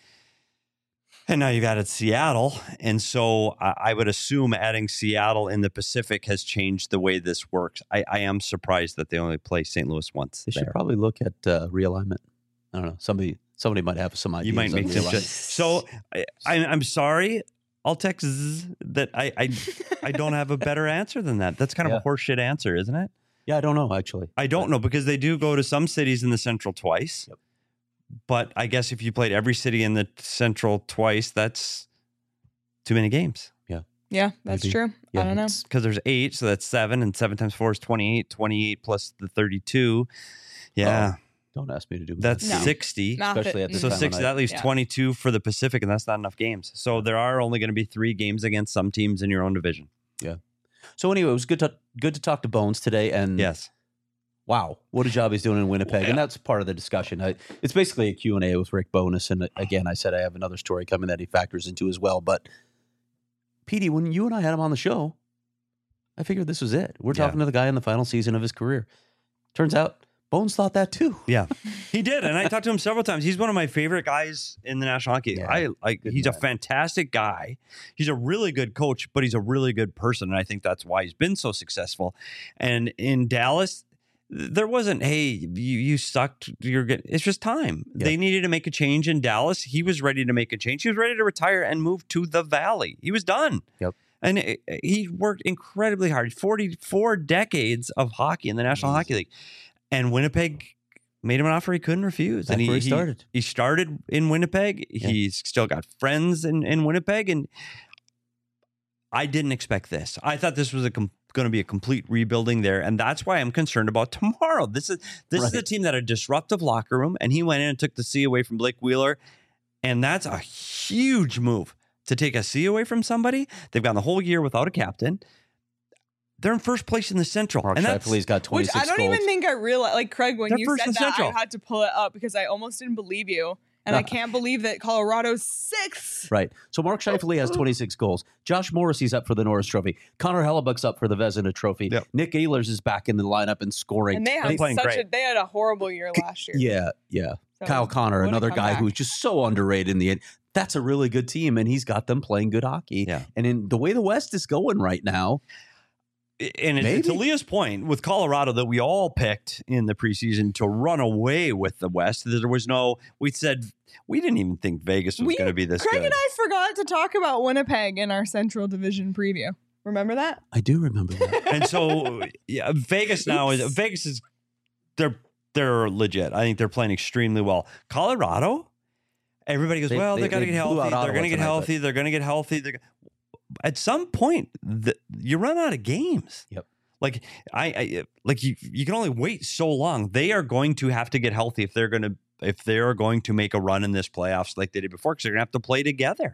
And now you've added Seattle. And so I, I would assume adding Seattle in the Pacific has changed the way this works. I, I am surprised that they only play Saint Louis once. They should there. probably look at uh, realignment. I don't know. Somebody somebody might have some ideas. You might on make some realignment. shit. So I, I, I'm sorry, I'll text zzz that I, I I don't have a better answer than that. That's kind of Yeah. a horseshit answer, isn't it? Yeah, I don't know actually. I don't know because they do go to some cities in the Central twice. Yep. But I guess if you played every city in the Central twice, that's too many games. Yeah, that's Maybe. true. Yeah, I don't know. it's- Because there's eight, so that's seven, and seven times four is twenty-eight. twenty-eight plus the thirty-two. Yeah, Don't ask me to do that's No. sixty. Math especially it. at this So time of six, night. that leaves Yeah. twenty-two for the Pacific, and that's not enough games. So there are only going to be three games against some teams in your own division. So anyway, it was good to good to talk to Bones today, and Yes. wow, what a job he's doing in Winnipeg, and that's part of the discussion. I, it's basically a Q and A with Rick Bowness, and again, I said I have another story coming that he factors into as well. But Petey, when you and I had him on the show, I figured this was it. We're Yeah. talking to the guy in the final season of his career. Turns out Bones thought that too. Yeah, he did, and I talked to him several times. He's one of my favorite guys in the National Hockey League. Yeah, I like. good He's a man. fantastic guy. He's a really good coach, but he's a really good person, and I think that's why he's been so successful. And in Dallas, there wasn't, hey, you you sucked. You're getting. It's just time. Yeah. They needed to make a change in Dallas. He was ready to make a change. He was ready to retire and move to the Valley. He was done. Yep. And it, he worked incredibly hard. forty-four decades of hockey in the National Amazing. Hockey League. And Winnipeg made him an offer he couldn't refuse. That's and he, where he started. He, started in Winnipeg. Yeah. He's still got friends in, in Winnipeg. And I didn't expect this. I thought this was a com- going to be a complete rebuilding there. And that's why I'm concerned about tomorrow. This is this is a Right. team that had a disruptive locker room. And he went in and took the C away from Blake Wheeler. And that's a huge move to take a C away from somebody. They've gone the whole year without a captain. They're in first place in the Central. Mark and that's, Scheifele's got Which twenty-six I don't goals. even think I realized. Like, Craig, when They're you first said in that, Central. I had to pull it up because I almost didn't believe you. And I can't believe that Colorado's sixth. Right. So Mark Scheifele has twenty-six goals. Josh Morrissey's up for the Norris Trophy. Connor Hellebuck's up for the Vezina Trophy. Yep. Nick Ehlers is back in the lineup and scoring. And they had playing such great. a they had a horrible year last year. Yeah, yeah. So, Kyle Connor, what a another guy comeback. who's just so underrated in the end. That's a really good team, and he's got them playing good hockey. Yeah. And in the way the West is going right now, And it's, to Maybe. Leah's point with Colorado that we all picked in the preseason to run away with the West. There was no, we said, we didn't even think Vegas was We- going to be this Craig good. and I forgot to talk about Winnipeg in our Central Division preview. Remember that? I do remember that. And so, yeah, Vegas now is, Oops. Vegas is, they're, they're legit. I think they're playing extremely well. Colorado, everybody goes, They- well, they, they- got to they get blew healthy. out They're going to Ottawa get tonight, healthy. They're going to get healthy. They're, at some point, the, you run out of games. Yep. Like I, I like you you can only wait so long. They are going to have to get healthy if they're going to if they are going to make a run in this playoffs like they did before, because they're going to have to play together.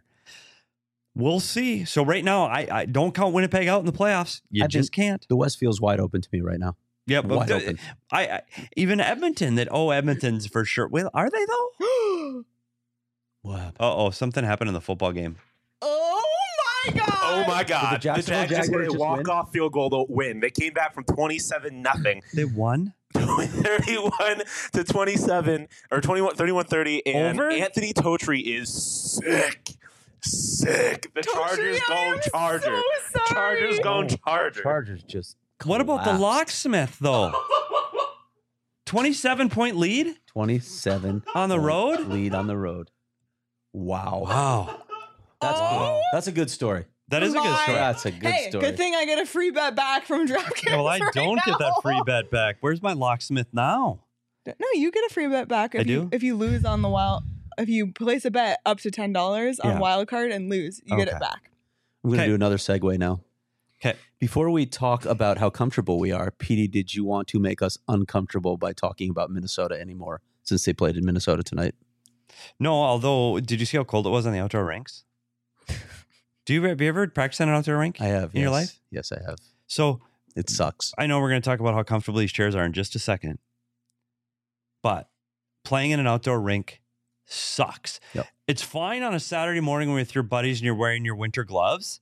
We'll see. So right now, I, I don't count Winnipeg out in the playoffs. You I just can't. The West feels wide open to me right now. Yeah, but Wide the- open. I, I even Edmonton. That oh, Edmonton's for sure. Well, are they though? What happened? Uh oh, something happened in the football game. Oh my god! Oh my God! The Jacksonville Jags just hit Jaguars a just walk-off field goal to win. They came back from twenty-seven nothing, They won. thirty-one to twenty-seven or twenty-one, thirty-one thirty, and Over? Anthony Totri is sick, sick. The Chargers Totri, I go am Chargers. so sorry. Chargers go Oh, Chargers. Chargers just. What about the collapsed. locksmith though? Twenty-seven point lead twenty-seven on the point road. lead on the road. Wow. Wow, That's Oh. good. That's a good story. that is a good My- story. That's a good hey, story. good thing I get a free bet back from DraftKings. Well, I right don't get that now. free bet back. Where's my locksmith now? No, you get a free bet back if I you do? if you lose on the wild. If you place a bet up to ten dollars on Yeah. wild card and lose, you get Okay. it back. I'm going to Okay. do another segue now. Okay. Before we talk about how comfortable we are, Petey, did you want to make us uncomfortable by talking about Minnesota anymore since they played in Minnesota tonight? No, although, did you see how cold it was on the outdoor rinks? Do you have you ever practiced on an outdoor rink? I have. In your yes. life? Yes, I have. So It sucks. I know we're going to talk about how comfortable these chairs are in just a second, but playing in an outdoor rink sucks. Yep. It's fine on a Saturday morning with your buddies and you're wearing your winter gloves.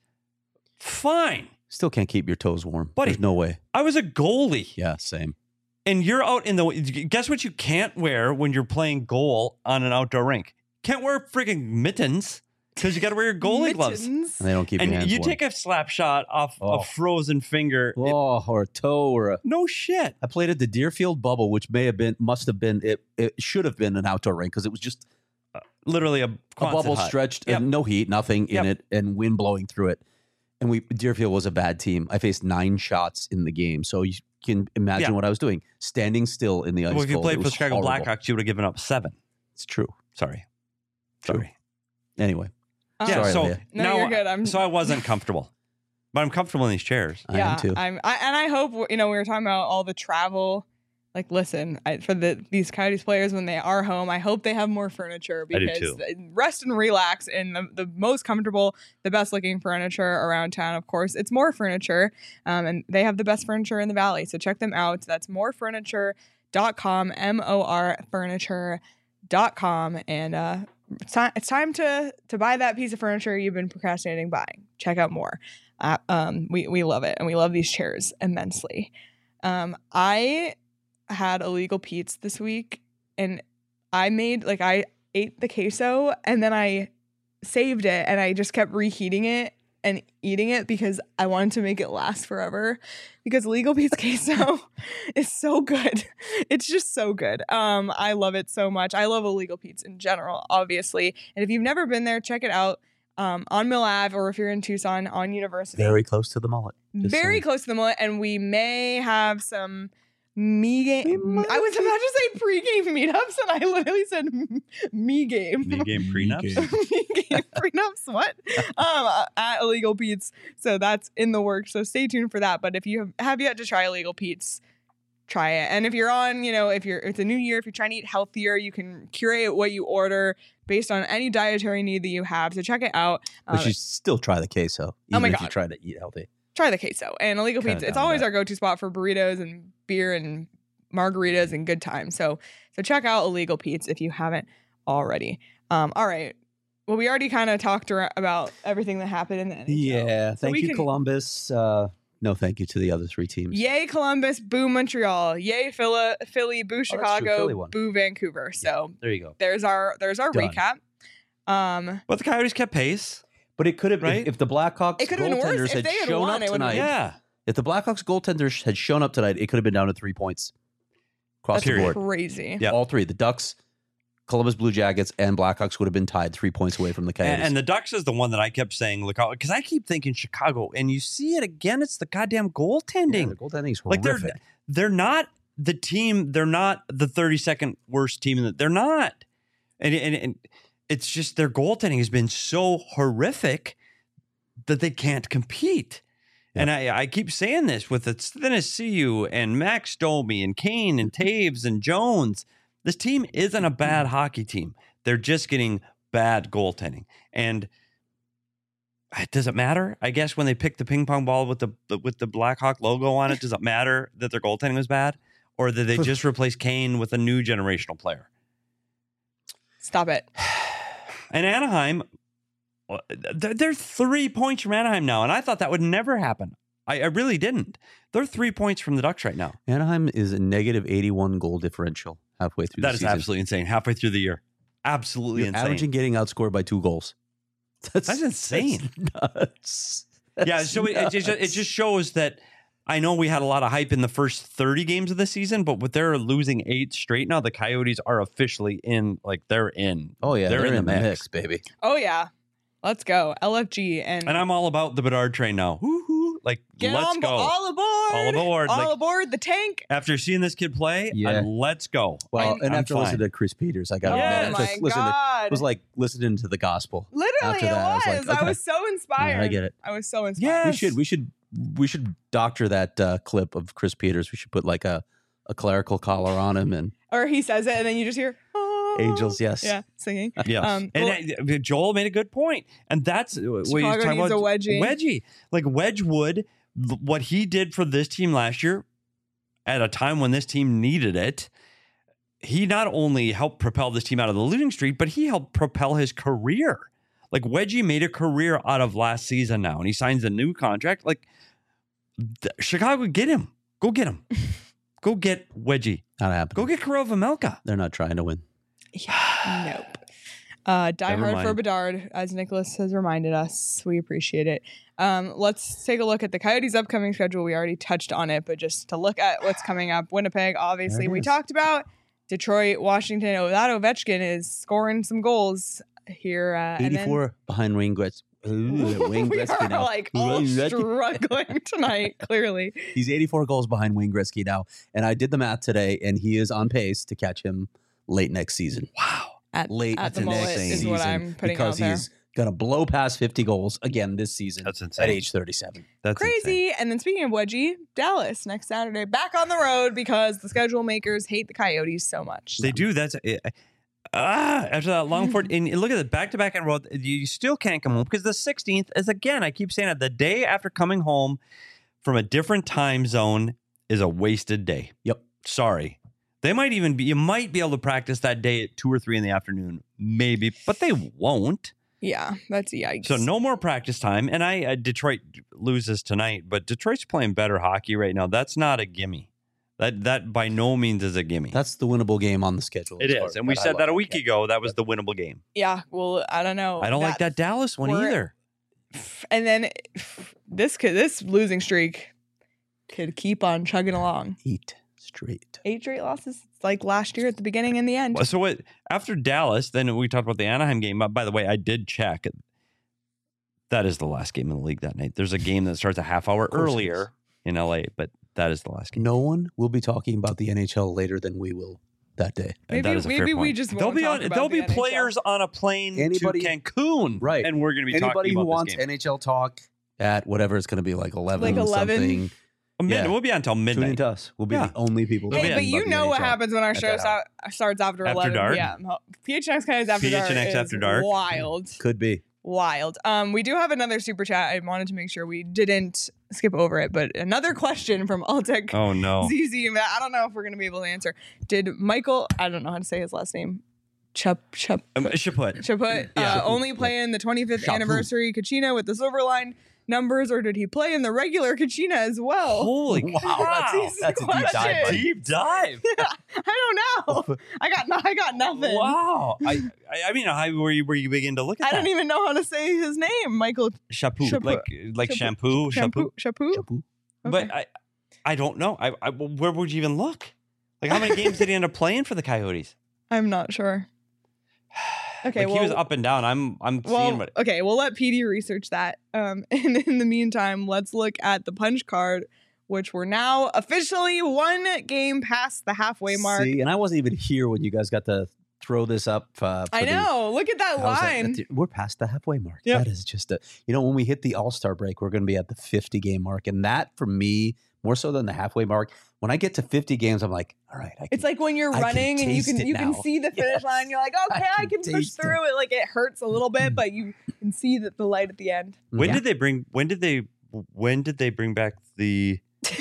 Fine. Still can't keep your toes warm. Buddy. There's no way. I was a goalie. Yeah, same. And you're out in the, guess what you can't wear when you're playing goal on an outdoor rink? Can't wear freaking mittens because you got to wear your goalie gloves. Mittens. And they don't keep your And hands you warm. take a slap shot off Oh. a frozen finger. It- Oh, or a toe or a... no shit. I played at the Deerfield Bubble, which may have been, must have been, it, it should have been an outdoor rink because it was just Literally a, a Quonset bubble hut. stretched Yep. and no heat, nothing Yep. in it, and wind blowing through it. And we Deerfield was a bad team. I faced nine shots in the game, so you can imagine Yeah. what I was doing, standing still in the ice. Well, if you cold. played It for the was Chicago horrible. Blackhawks, you would have given up seven. It's true. Sorry. True. Sorry. Anyway, Uh, Yeah, Sorry, so Leah. No, now, you're good. I'm so I wasn't comfortable, but I'm comfortable in these chairs. I yeah, am too. I'm, I, and I hope you know we were talking about all the travel. Like, listen, I, for the these Coyotes players when they are home, I hope they have more furniture I do because too. th- rest and relax in the, the most comfortable, the best looking furniture around town. Of course, it's More Furniture, um, and they have the best furniture in the valley. So check them out. That's more furniture dot com, M O R furniture dot com, and uh, it's time, it's time to to buy that piece of furniture you've been procrastinating buying. Check out More. Uh, um, we we love it, and we love these chairs immensely. Um, I had illegal Pete's this week, and I made like I ate the queso, and then I saved it, and I just kept reheating it and eating it because I wanted to make it last forever. Because Legal Pete's queso is so good. It's just so good. Um, I love it so much. I love Illegal Pete's in general, obviously. And if you've never been there, check it out um, on Mill Ave, or if you're in Tucson, on University. very close to the mullet. Just Very saying. close to the mullet, and we may have some me game. I was about to say pre-game meetups, and I literally said m- me game. Me game prenups. Me game prenups. What? um, at Illegal Pete's. So that's in the works. So stay tuned for that. But if you have, have yet to try Illegal Pete's, try it. And if you're on, you know, if you're it's a new year, if you're trying to eat healthier, you can curate what you order based on any dietary need that you have. So check it out. But Um, you still try the queso, even Oh my if you God. try to eat healthy. try the queso and Illegal Kinda Pizza. It's down with always that. our go-to spot for burritos and beer and margaritas and good times. So so check out Illegal Pete's if you haven't already. Um, all right. Well, we already kind of talked ar- about everything that happened in the N H L. Yeah. Thank we you, can- Columbus. Uh, no, thank you to the other three teams. Yay Columbus, boo Montreal. Yay Philly, Philly boo Oh, that's true. Chicago, Philly won. boo Vancouver. So There you go. there's our there's our Done. recap. Um, But the Coyotes kept pace. But it could have, Right? if, if the Blackhawks It could have been worse. goaltenders If had they had shown won, up it would've tonight, been- Yeah. if the Blackhawks goaltenders had shown up tonight, it could have been down to three points across that's the Period. board. crazy. Yeah. All three, the Ducks, Columbus Blue Jackets, and Blackhawks would have been tied three points away from the Coyotes. And, and the Ducks is the one that I kept saying, look, because I keep thinking Chicago, and you see it again. It's the goddamn yeah, goaltending. the goaltending's like they're horrific. they're not the team. They're not the thirty-second worst team. In the, they're not, and, and and it's just their goaltending has been so horrific that they can't compete. And I, I keep saying this with Tennessee and Max Domi and Kane and Taves and Jones. This team isn't a bad hockey team. They're just getting bad goaltending. And does it matter? I guess when they picked the ping pong ball with the with the Blackhawk logo on it, does it matter that their goaltending was bad? Or did they just replace Kane with a new generational player? Stop it. And Anaheim, they're, they're three points from Anaheim now, and I thought that would never happen. I, I really didn't. They're three points from the Ducks right now. Anaheim is a negative eighty-one goal differential halfway through That the is season. absolutely insane. Halfway through the year, absolutely You're insane. averaging getting outscored by two goals. That's, That's insane. That's nuts. That's yeah, so it, it, just, it nuts. just shows that I know we had a lot of hype in the first thirty games of the season, but with their losing eight straight now, the Coyotes are officially in, like they're in. Oh yeah, they're, they're, in, in, the mix. mix, baby. Oh yeah. Let's go. L F G and, And I'm all about the Bedard train now. Woo-hoo. Like, get let's on go. all aboard. All aboard. All Like- aboard the tank. After seeing this kid play, Yeah. uh, let's go. Well, I'm- and I'm after fine. listening to Chris Peters, I got to Yeah. admit, Oh I my just listened to, god. it was like listening to the gospel. Literally after it that, I was. was like, I okay. was so inspired. Yeah, I get it. I was so inspired. Yeah. We Yes. should we should we should doctor that uh, clip of Chris Peters. We should put like a, a clerical collar on him and Or he says it and then you just hear, oh. angels. Yes. Yeah, singing. Yeah, Um, and well- uh, Joel made a good point, and that's uh, what you're Chicago talking needs about. a wedgie. Wedgie, like Wedgwood, th- what he did for this team last year, at a time when this team needed it. He not only helped propel this team out of the losing streak, but he helped propel his career. Like Wedgie made a career out of last season now, and he signs a new contract. Like th- Chicago, get him. Go get him. Go get Wedgie. Not happening. Go get Kirill Vejmelka. They're not trying to win. Yeah, nope. Uh, die Never hard for mind. Bedard, as Nicholas has reminded us. We appreciate it. Um, let's take a look at the Coyotes' upcoming schedule. We already touched on it, but just to look at what's coming up. Winnipeg, obviously, There it we is. talked about. Detroit, Washington. Oh, that Ovechkin is scoring some goals here. Uh, and then- eighty-four behind Wayne Gretzky. Ooh, Wayne we Gretzky are now. like all Wayne Gretzky. struggling tonight, clearly. He's eighty-four goals behind Wayne Gretzky now. And I did the math today, and he is on pace to catch him late next season. Wow. At, Late at the next mullet is season. what I'm putting because out there. he's going to blow past fifty goals again this season That's insane. at age thirty-seven. That's insane. Crazy. And then speaking of Wedgie, Dallas next Saturday, back on the road because the schedule makers hate the Coyotes so much. They do. That's uh, ah after that long port. And look at it, back to back in a row. You still can't come home because the sixteenth is again. I keep saying it. The day after coming home from a different time zone is a wasted day. Yep. Sorry. They might even be. You might be able to practice that day at two or three in the afternoon, maybe, but they won't. Yeah, that's yikes. So no more practice time. And I uh, Detroit loses tonight, but Detroit's playing better hockey right now. That's not a gimme. That that by no means is a gimme. That's the winnable game on the schedule. It as far is, and we as I said look that a at week it. ago. That was the winnable game. Yeah, well, I don't know. I don't like that Dallas one we're- either. And then this could this losing streak could keep on chugging along. Eight straight. Eight straight losses, it's like last year at the beginning and the end. Well, So what? After Dallas, then we talked about the Anaheim game. But by the way, I did check. That is the last game in the league that night. There's a game that starts a half hour course it is. earlier in L A, but that is the last game. No one will be talking about the N H L later than we will that day. And Maybe- that is a fair maybe we point. just there'll won't be talk on, about there'll the be N H L. players on a plane Anybody- to Cancun, Right. And we're going to be Anybody talking who about wants this game. N H L talk at whatever it's going to be, like eleven, Like eleven? something. Mid- yeah. We'll be on until Tune midnight. into us. We'll be Yeah. the only people. We'll be Hey, on but you about the know what N H L happens when our at show that hour. start, starts after, After eleven dark? p.m. P H N X Coyotes after P H N dark X is after dark? wild. Could be. Wild. Um, we do have another super chat. I wanted to make sure we didn't skip over it, but another question from Altec Oh no! Z Z. I don't know if we're going to be able to answer. Did Michael, I don't know how to say his last name, Chup, Chup, Um, Chaput. Chaput, Yeah. uh, only play in the twenty-fifth Chaput. anniversary Kachina with the silver line numbers, or did he play in the regular Kachina as well? Holy Wow, wow! that's- That's a deep dive. buddy. Deep dive. I don't know. I got no, I got nothing. Wow. I, I I mean, how were you were you begin to look at I that? don't even know how to say his name, Michael Shampoo, Chaput. like like Chaput. shampoo, shampoo. Shampoo. Shampoo. Shampoo. But Okay. I I don't know. I, I where would you even look? Like how many games did he end up playing for the Coyotes? I'm not sure. Okay, like well, he was up and down. I'm I'm seeing well, what okay, we'll let P D research that. Um, and in the meantime, let's look at the punch card, which we're now officially one game past the halfway mark. See, and I wasn't even here when you guys got to throw this up. Uh, for I the- know. Look at that How's that? line. That's- We're past the halfway mark. Yep. That is just a, you know, when we hit the All Star break, we're going to be at the fifty game mark. And that for me, more so than the halfway mark, when I get to fifty games, I'm like, all right. I can, It's like when you're I can running and you taste can it you can now. see the finish Yes. line. You're like, okay, I I can can, push taste through it. Like it hurts a little bit, but you can see that the light at the end. when Yeah. did they bring when did they when did they bring back the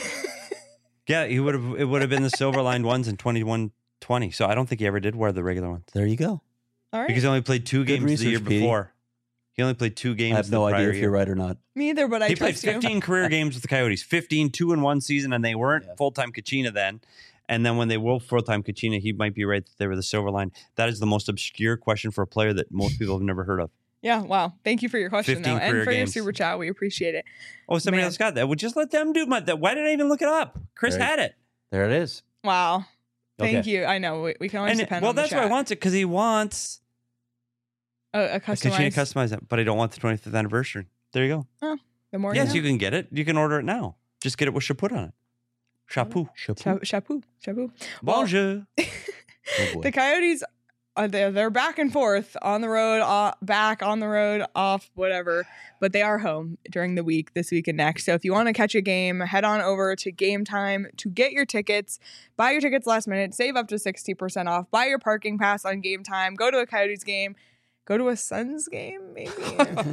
Yeah, he would have it would have been the silver lined ones in twenty-one twenty. So I don't think he ever did wear the regular ones. There you go. All right. Because he only played two Good games the year research, Petey. before. He only played two games I have the no prior idea if year. you're right or not. Me either, but I He played trust you. fifteen career games with the Coyotes, fifteen, two in one season, and they weren't Yeah. full-time Kachina then. And then when they were full-time Kachina, he might be right that they were the silver line. That is the most obscure question for a player that most people have never heard of. Yeah, wow. Thank you for your question, though. fifteen And career for your games. super chat. We appreciate it. Oh, somebody Man. else got that. Well, just let them do my, that. Why did I even look it up? Chris Right. had it. There it is. Wow. Thank Okay. you. I know. We, we can always And depend well, on the that's chat. why I want it, because he wants a, a a Kachina customized. customize it, but I don't want the twenty-fifth anniversary. There you go. the more Yes, you you can get it. You can order it now. Just get it with Chaput on it. Chapeau. know. Cha- Chapeau. Chapeau. Well, Bonjour. Oh, boy. The Coyotes uh, they're, they're back and forth on the road, uh, back on the road, off, whatever. But they are home during the week, this week and next. So if you want to catch a game, head on over to Game Time to get your tickets. Buy your tickets last minute. Save up to sixty percent off. Buy your parking pass on Game Time. Go to a Coyotes game. Go to a Suns game, maybe. But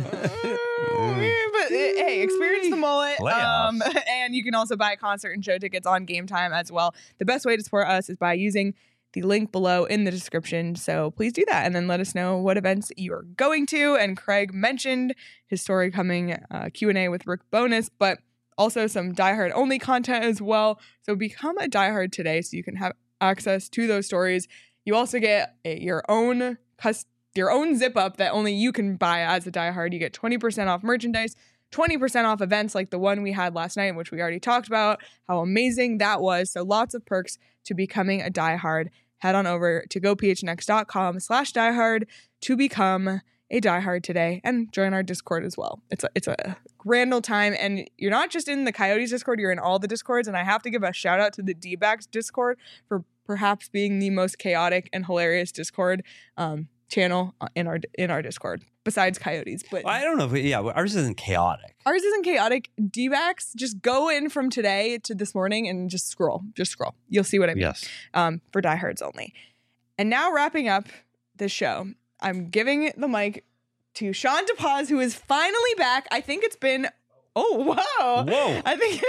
hey, experience the mullet. Um, and you can also buy concert and show tickets on Game Time as well. The best way to support us is by using the link below in the description. So please do that. And then let us know what events you are going to. And Craig mentioned his story coming, uh, Q and A with Rick Bonus, but also some Die Hard only content as well. So become a Die Hard today so you can have access to those stories. You also get a, your own custom your own zip up that only you can buy as a Die Hard. You get twenty percent off merchandise, twenty percent off events like the one we had last night, which we already talked about, how amazing that was. So lots of perks to becoming a Die Hard. Head on over to gophnx.com slash diehard to become a Die Hard today and join our Discord as well. It's a, it's a grand old time. And you're not just in the Coyotes Discord, you're in all the Discords. And I have to give a shout out to the D-backs Discord for perhaps being the most chaotic and hilarious Discord um, channel in our in our Discord besides Coyotes. But I don't know if we, yeah, ours isn't chaotic. Ours isn't chaotic. D-backs, just go in from today to this morning and just scroll. Just scroll. You'll see what I mean. Yes. Um, for diehards only. And now wrapping up this show, I'm giving the mic to Sean DePaz, who is finally back. I think it's been oh wow. Whoa. I think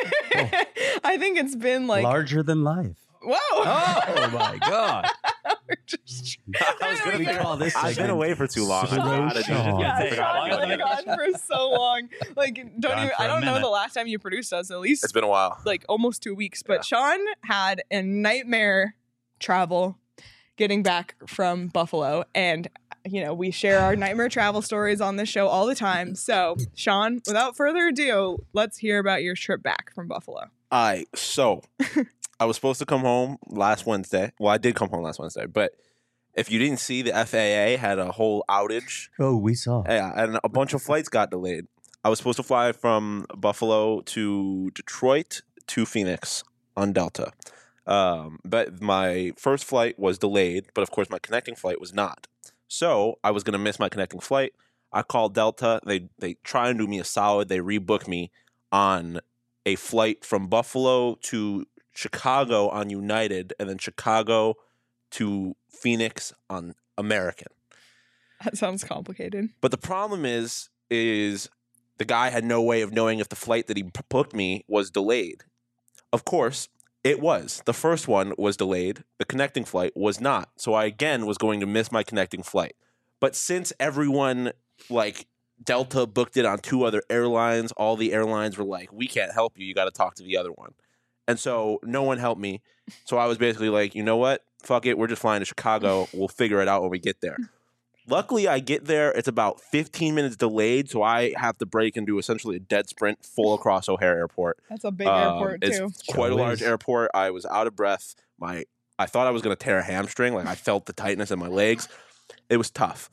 I think it's been like larger than life. Whoa. Oh my God. We're just, I was gonna We figure- call this I've been segment away for too long. I Slow forgot how to do Sean. it. yeah, Take Sean how long has is been it? gone for so long. Like, don't Gone even. for I a don't know minute. the last time you produced us. At least It's been a while. like almost two weeks. But Yeah. Sean had a nightmare travel getting back from Buffalo, and you know we share our nightmare travel stories on this show all the time. So, Sean, without further ado, let's hear about your trip back from Buffalo. All right, so I was supposed to come home last Wednesday. Well, I did come home last Wednesday, but if you didn't see, the F A A had a whole outage. Oh, we saw. Yeah, and a bunch of flights got delayed. I was supposed to fly from Buffalo to Detroit to Phoenix on Delta. Um, but my first flight was delayed, but of course my connecting flight was not. So I was going to miss my connecting flight. I called Delta. They they try and do me a solid. They rebook me on a flight from Buffalo to Chicago on United, and then Chicago to Phoenix on American. That sounds complicated. But the problem is, is the guy had no way of knowing if the flight that he p- booked me was delayed. Of course, it was. The first one was delayed. The connecting flight was not. So I, again, was going to miss my connecting flight. But since everyone, like, Delta booked it on two other airlines, all the airlines were like, we can't help you. You got to talk to the other one. And so no one helped me. So I was basically like, you know what? Fuck it. We're just flying to Chicago. We'll figure it out when we get there. Luckily, I get there. It's about fifteen minutes delayed, so I have to break and do essentially a dead sprint full across O'Hare Airport. That's a big Um, airport it's too. quite a Sure large is. airport. I was out of breath. My I thought I was going to tear a hamstring. Like I felt the tightness in my legs. It was tough.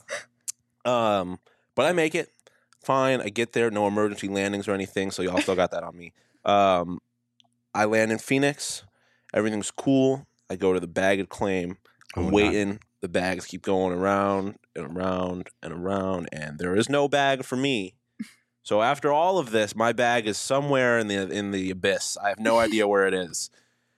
Um, but I make it fine. I get there. No emergency landings or anything. So y'all still got that on me. Um, I land in Phoenix. Everything's cool. I go to the baggage claim. I'm Oh, waiting. The bags keep going around and around and around, and there is no bag for me. So after all of this, my bag is somewhere in the in the abyss. I have no idea where it is.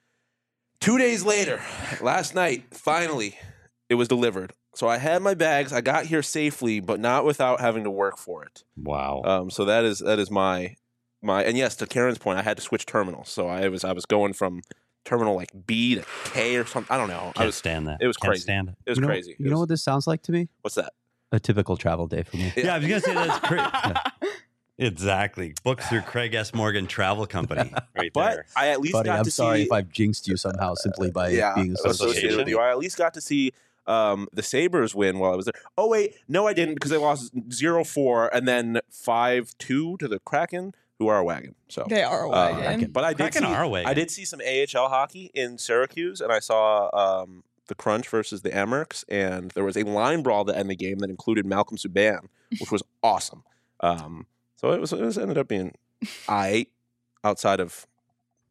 Two days later, last night, finally, it was delivered. So I had my bags. I got here safely, but not without having to work for it. Wow. Um, so that is that is my my and yes, to Karen's point, I had to switch terminals. So I was I was going from terminal like B to K or something. I don't know. I Can't was stand that. it was Can't crazy. stand it. it was you know, crazy. You It know was- what this sounds like to me? what's that? A typical travel day for me. Yeah, I was gonna say that's crazy. Exactly. Booked through Craig S. Morgan Travel Company, right But there. I at least Buddy, got I'm to sorry see if I've jinxed you somehow simply by yeah, being associated associated. with you. I at least got to see um, the Sabres win while I was there. Oh wait, no, I didn't because they lost zero four and then five two to the Kraken, who are a wagon. So, They are a uh, wagon. but I did Kraken see are a wagon. I did see some A H L hockey in Syracuse, and I saw um, the Crunch versus the Amerks, and there was a line brawl to end the game that included Malcolm Subban, which was awesome. Um, so it was it was ended up being I outside of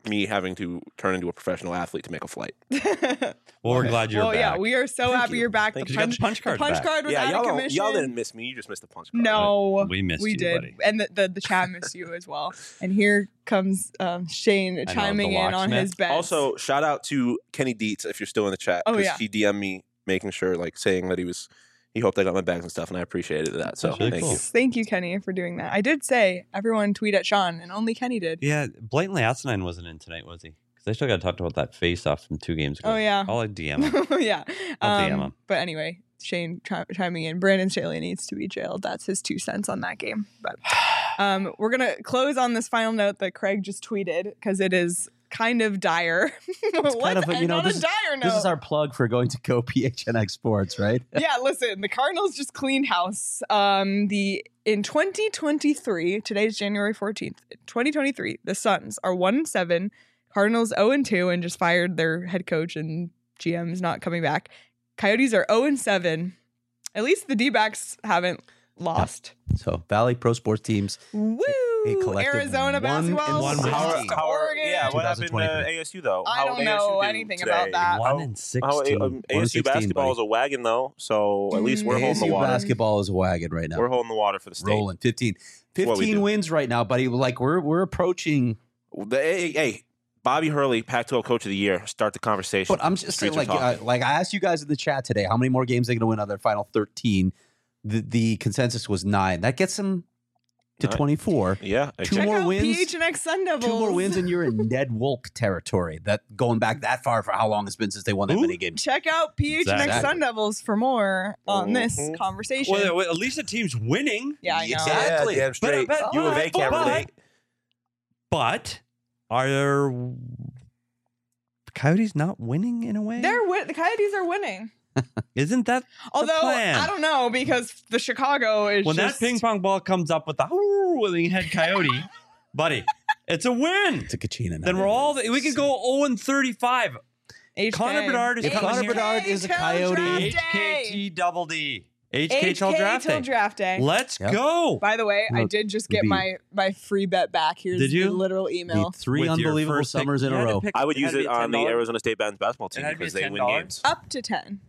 me having to turn into a professional athlete to make a flight. Well, we're glad you're well, back. yeah, we are so Thank happy you. you're back. Thank the you. You got punch, the punch card the punch back. card was Yeah, out y'all, of don't, commission. y'all didn't miss me. You just missed the punch card. No, We missed we you, did, buddy. and the, the the chat missed you as well. And here comes um, Shane know, chiming the in on locksmith. his bet. Also, shout out to Kenny Dietz if you're still in the chat. Oh, 'cause yeah. he D M'd me making sure, like saying that he was, he hoped I got my bags and stuff, and I appreciated that. So That's really thank cool. you. thank you, Kenny, for doing that. I did say everyone tweet at Sean, and only Kenny did. Yeah, blatantly Asinine wasn't in tonight, was he? Because I still got to talk about that face-off from two games ago. Oh, yeah. I'll like, D M him. yeah. I'll D M Um, him. but anyway, Shane chi- chiming in. Brandon Staley needs to be jailed. That's his two cents on that game. But um, we're gonna close on this final note that Craig just tweeted because it is kind of dire. Let's kind of a- you end know, on this a is- dire note. This is our plug for going to go P H N X Sports, right? yeah, listen, the Cardinals just cleaned house. Um, the in twenty twenty-three, today's January fourteenth, twenty twenty-three, the Suns are one and seven, Cardinals zero and two, and just fired their head coach and G M's not coming back. Coyotes are zero and seven. At least the D-backs haven't lost. So Valley Pro Sports teams. Woo! a collective Arizona one basketball and lost one How, to win. how are, Oregon. yeah, what happened to twenty-three. A S U though? I How don't did know A S U do anything today? about that. One How- and How, sixteen. um, One A and S U sixteen, basketball buddy. is a wagon though, so at least we're Mm, holding the A S U water. basketball is a wagon right now. We're holding the water for the state. rolling fifteen. what we fifteen do. wins right now, buddy. Like we're we're approaching. The, hey, hey, Bobby Hurley, Pac twelve Coach of the Year. Start the conversation. But I'm just saying, Streets like, are uh, talking. like I asked you guys in the chat today, how many more games are they going to win out of their final thirteen? The the consensus was nine. That gets them to Nine. twenty-four. Yeah, Two Check more out wins. P H N X Sun Devils. Two more wins, and you're in Ned Wolk territory. That going back that far for how long it's been since they won that Who? many games. Check out P H N X Exactly. Sun Devils for more on this Mhm. conversation. Well, well, at least the team's winning. yeah, I know. Exactly. Yeah, damn straight. But- but- you and they can't but- relate. But are there Coyotes not winning in a way? They're win- the Coyotes are winning. Isn't that Although plan. I don't know because the Chicago is when just that ping pong ball comes up with the willing head coyote, buddy? It's a win. It's a Kachina. Then we're all we can go zero and thirty-five. H K. Connor Bedard is If coming Connor here. Bedard is a Till Coyote- draft H K day. T double D. H K till draft till day. draft day. Let's Yep. go. By the way, I Well, did just get be- my my free bet back. Here's Did you? the literal email. The three With your unbelievable first pick. summers in You a had to row. pick- I would had use to be it on the ten dollars. Arizona State men's basketball It team had to be because they ten win dollars. games. Up to ten.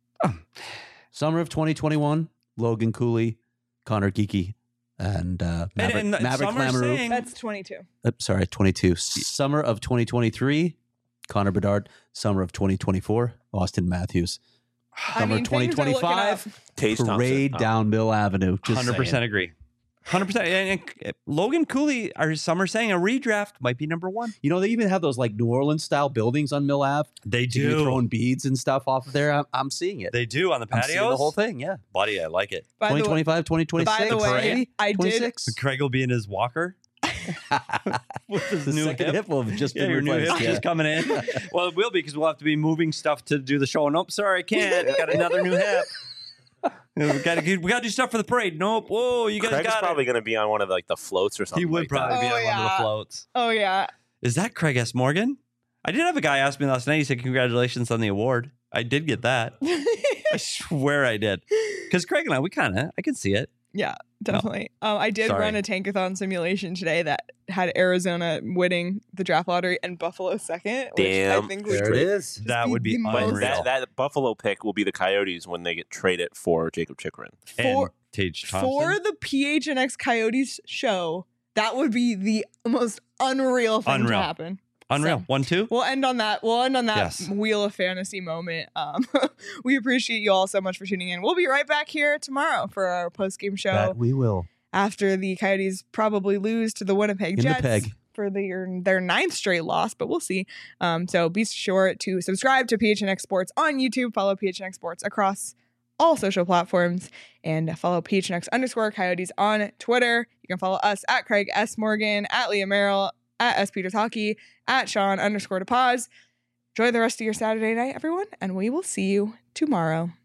Summer of twenty twenty-one, Logan Cooley, Connor Geeky, and uh, And, Maverick, and Maverick some are Lamoureux. saying That's twenty-two. Uh, sorry, twenty-two. Summer of twenty twenty-three, Connor Bedard. Summer of twenty twenty-four, Austin Matthews. I Summer mean, twenty things are looking twenty-five, up. Tage Parade Thompson. Oh. down Mill Avenue. Just hundred percent saying. agree. Hundred percent. And and Logan Cooley, are some are saying a redraft might be number one. You know, they even have those like New Orleans style buildings on Mill Ave. They You can be throwing beads and stuff off of there. I'm, I'm seeing it. They do on the I'm patios. seeing the whole thing. Yeah. Buddy, I like it. By the way, twenty twenty-five, twenty twenty-six. by the way, I did. twenty-six. Craig will be in his walker with his The new second hip. hip will have just Yeah, been your new hip replaced. Yeah. just coming in. Well, it will be because we'll have to be moving stuff to do the show. Nope, sorry, I can't. Got another new hip. we got to we got to do stuff for the parade. Nope. Whoa, you guys Craig's got probably it. going to be on one of the, like the floats or something. He would like probably that. be Oh, on one of yeah. the floats. Oh yeah. Is that Craig S. Morgan? I did have a guy ask me last night. He said, "Congratulations on the award." I did get that. I swear I did. Because Craig and I, we kind of, I can see it. Yeah, definitely. Um, I did Sorry. run a tankathon simulation today that had Arizona winning the draft lottery and Buffalo second. Which Damn. I think we There it is. That be would be the But most- unreal. that, that Buffalo pick will be the Coyotes when they get traded for Jacob Chikrin. for and Tage Thompson. for the P H N X Coyotes show. That would be the most unreal thing Unreal. to happen. Unreal. So- One, two. We'll end on that. We'll end on that Yes. wheel of fantasy moment. Um, we appreciate you all so much for tuning in. We'll be right back here tomorrow for our post game show That we will. after the Coyotes probably lose to the Winnipeg In the Jets peg. for their their ninth straight loss, but we'll see. Um, so be sure to subscribe to P H N X Sports on YouTube. Follow P H N X Sports across all social platforms, and follow P H N X underscore Coyotes on Twitter. You can follow us at Craig S. Morgan, at Leah Merrill, at S. Peters Hockey, at Sean underscore to pause. Enjoy the rest of your Saturday night, everyone, and we will see you tomorrow.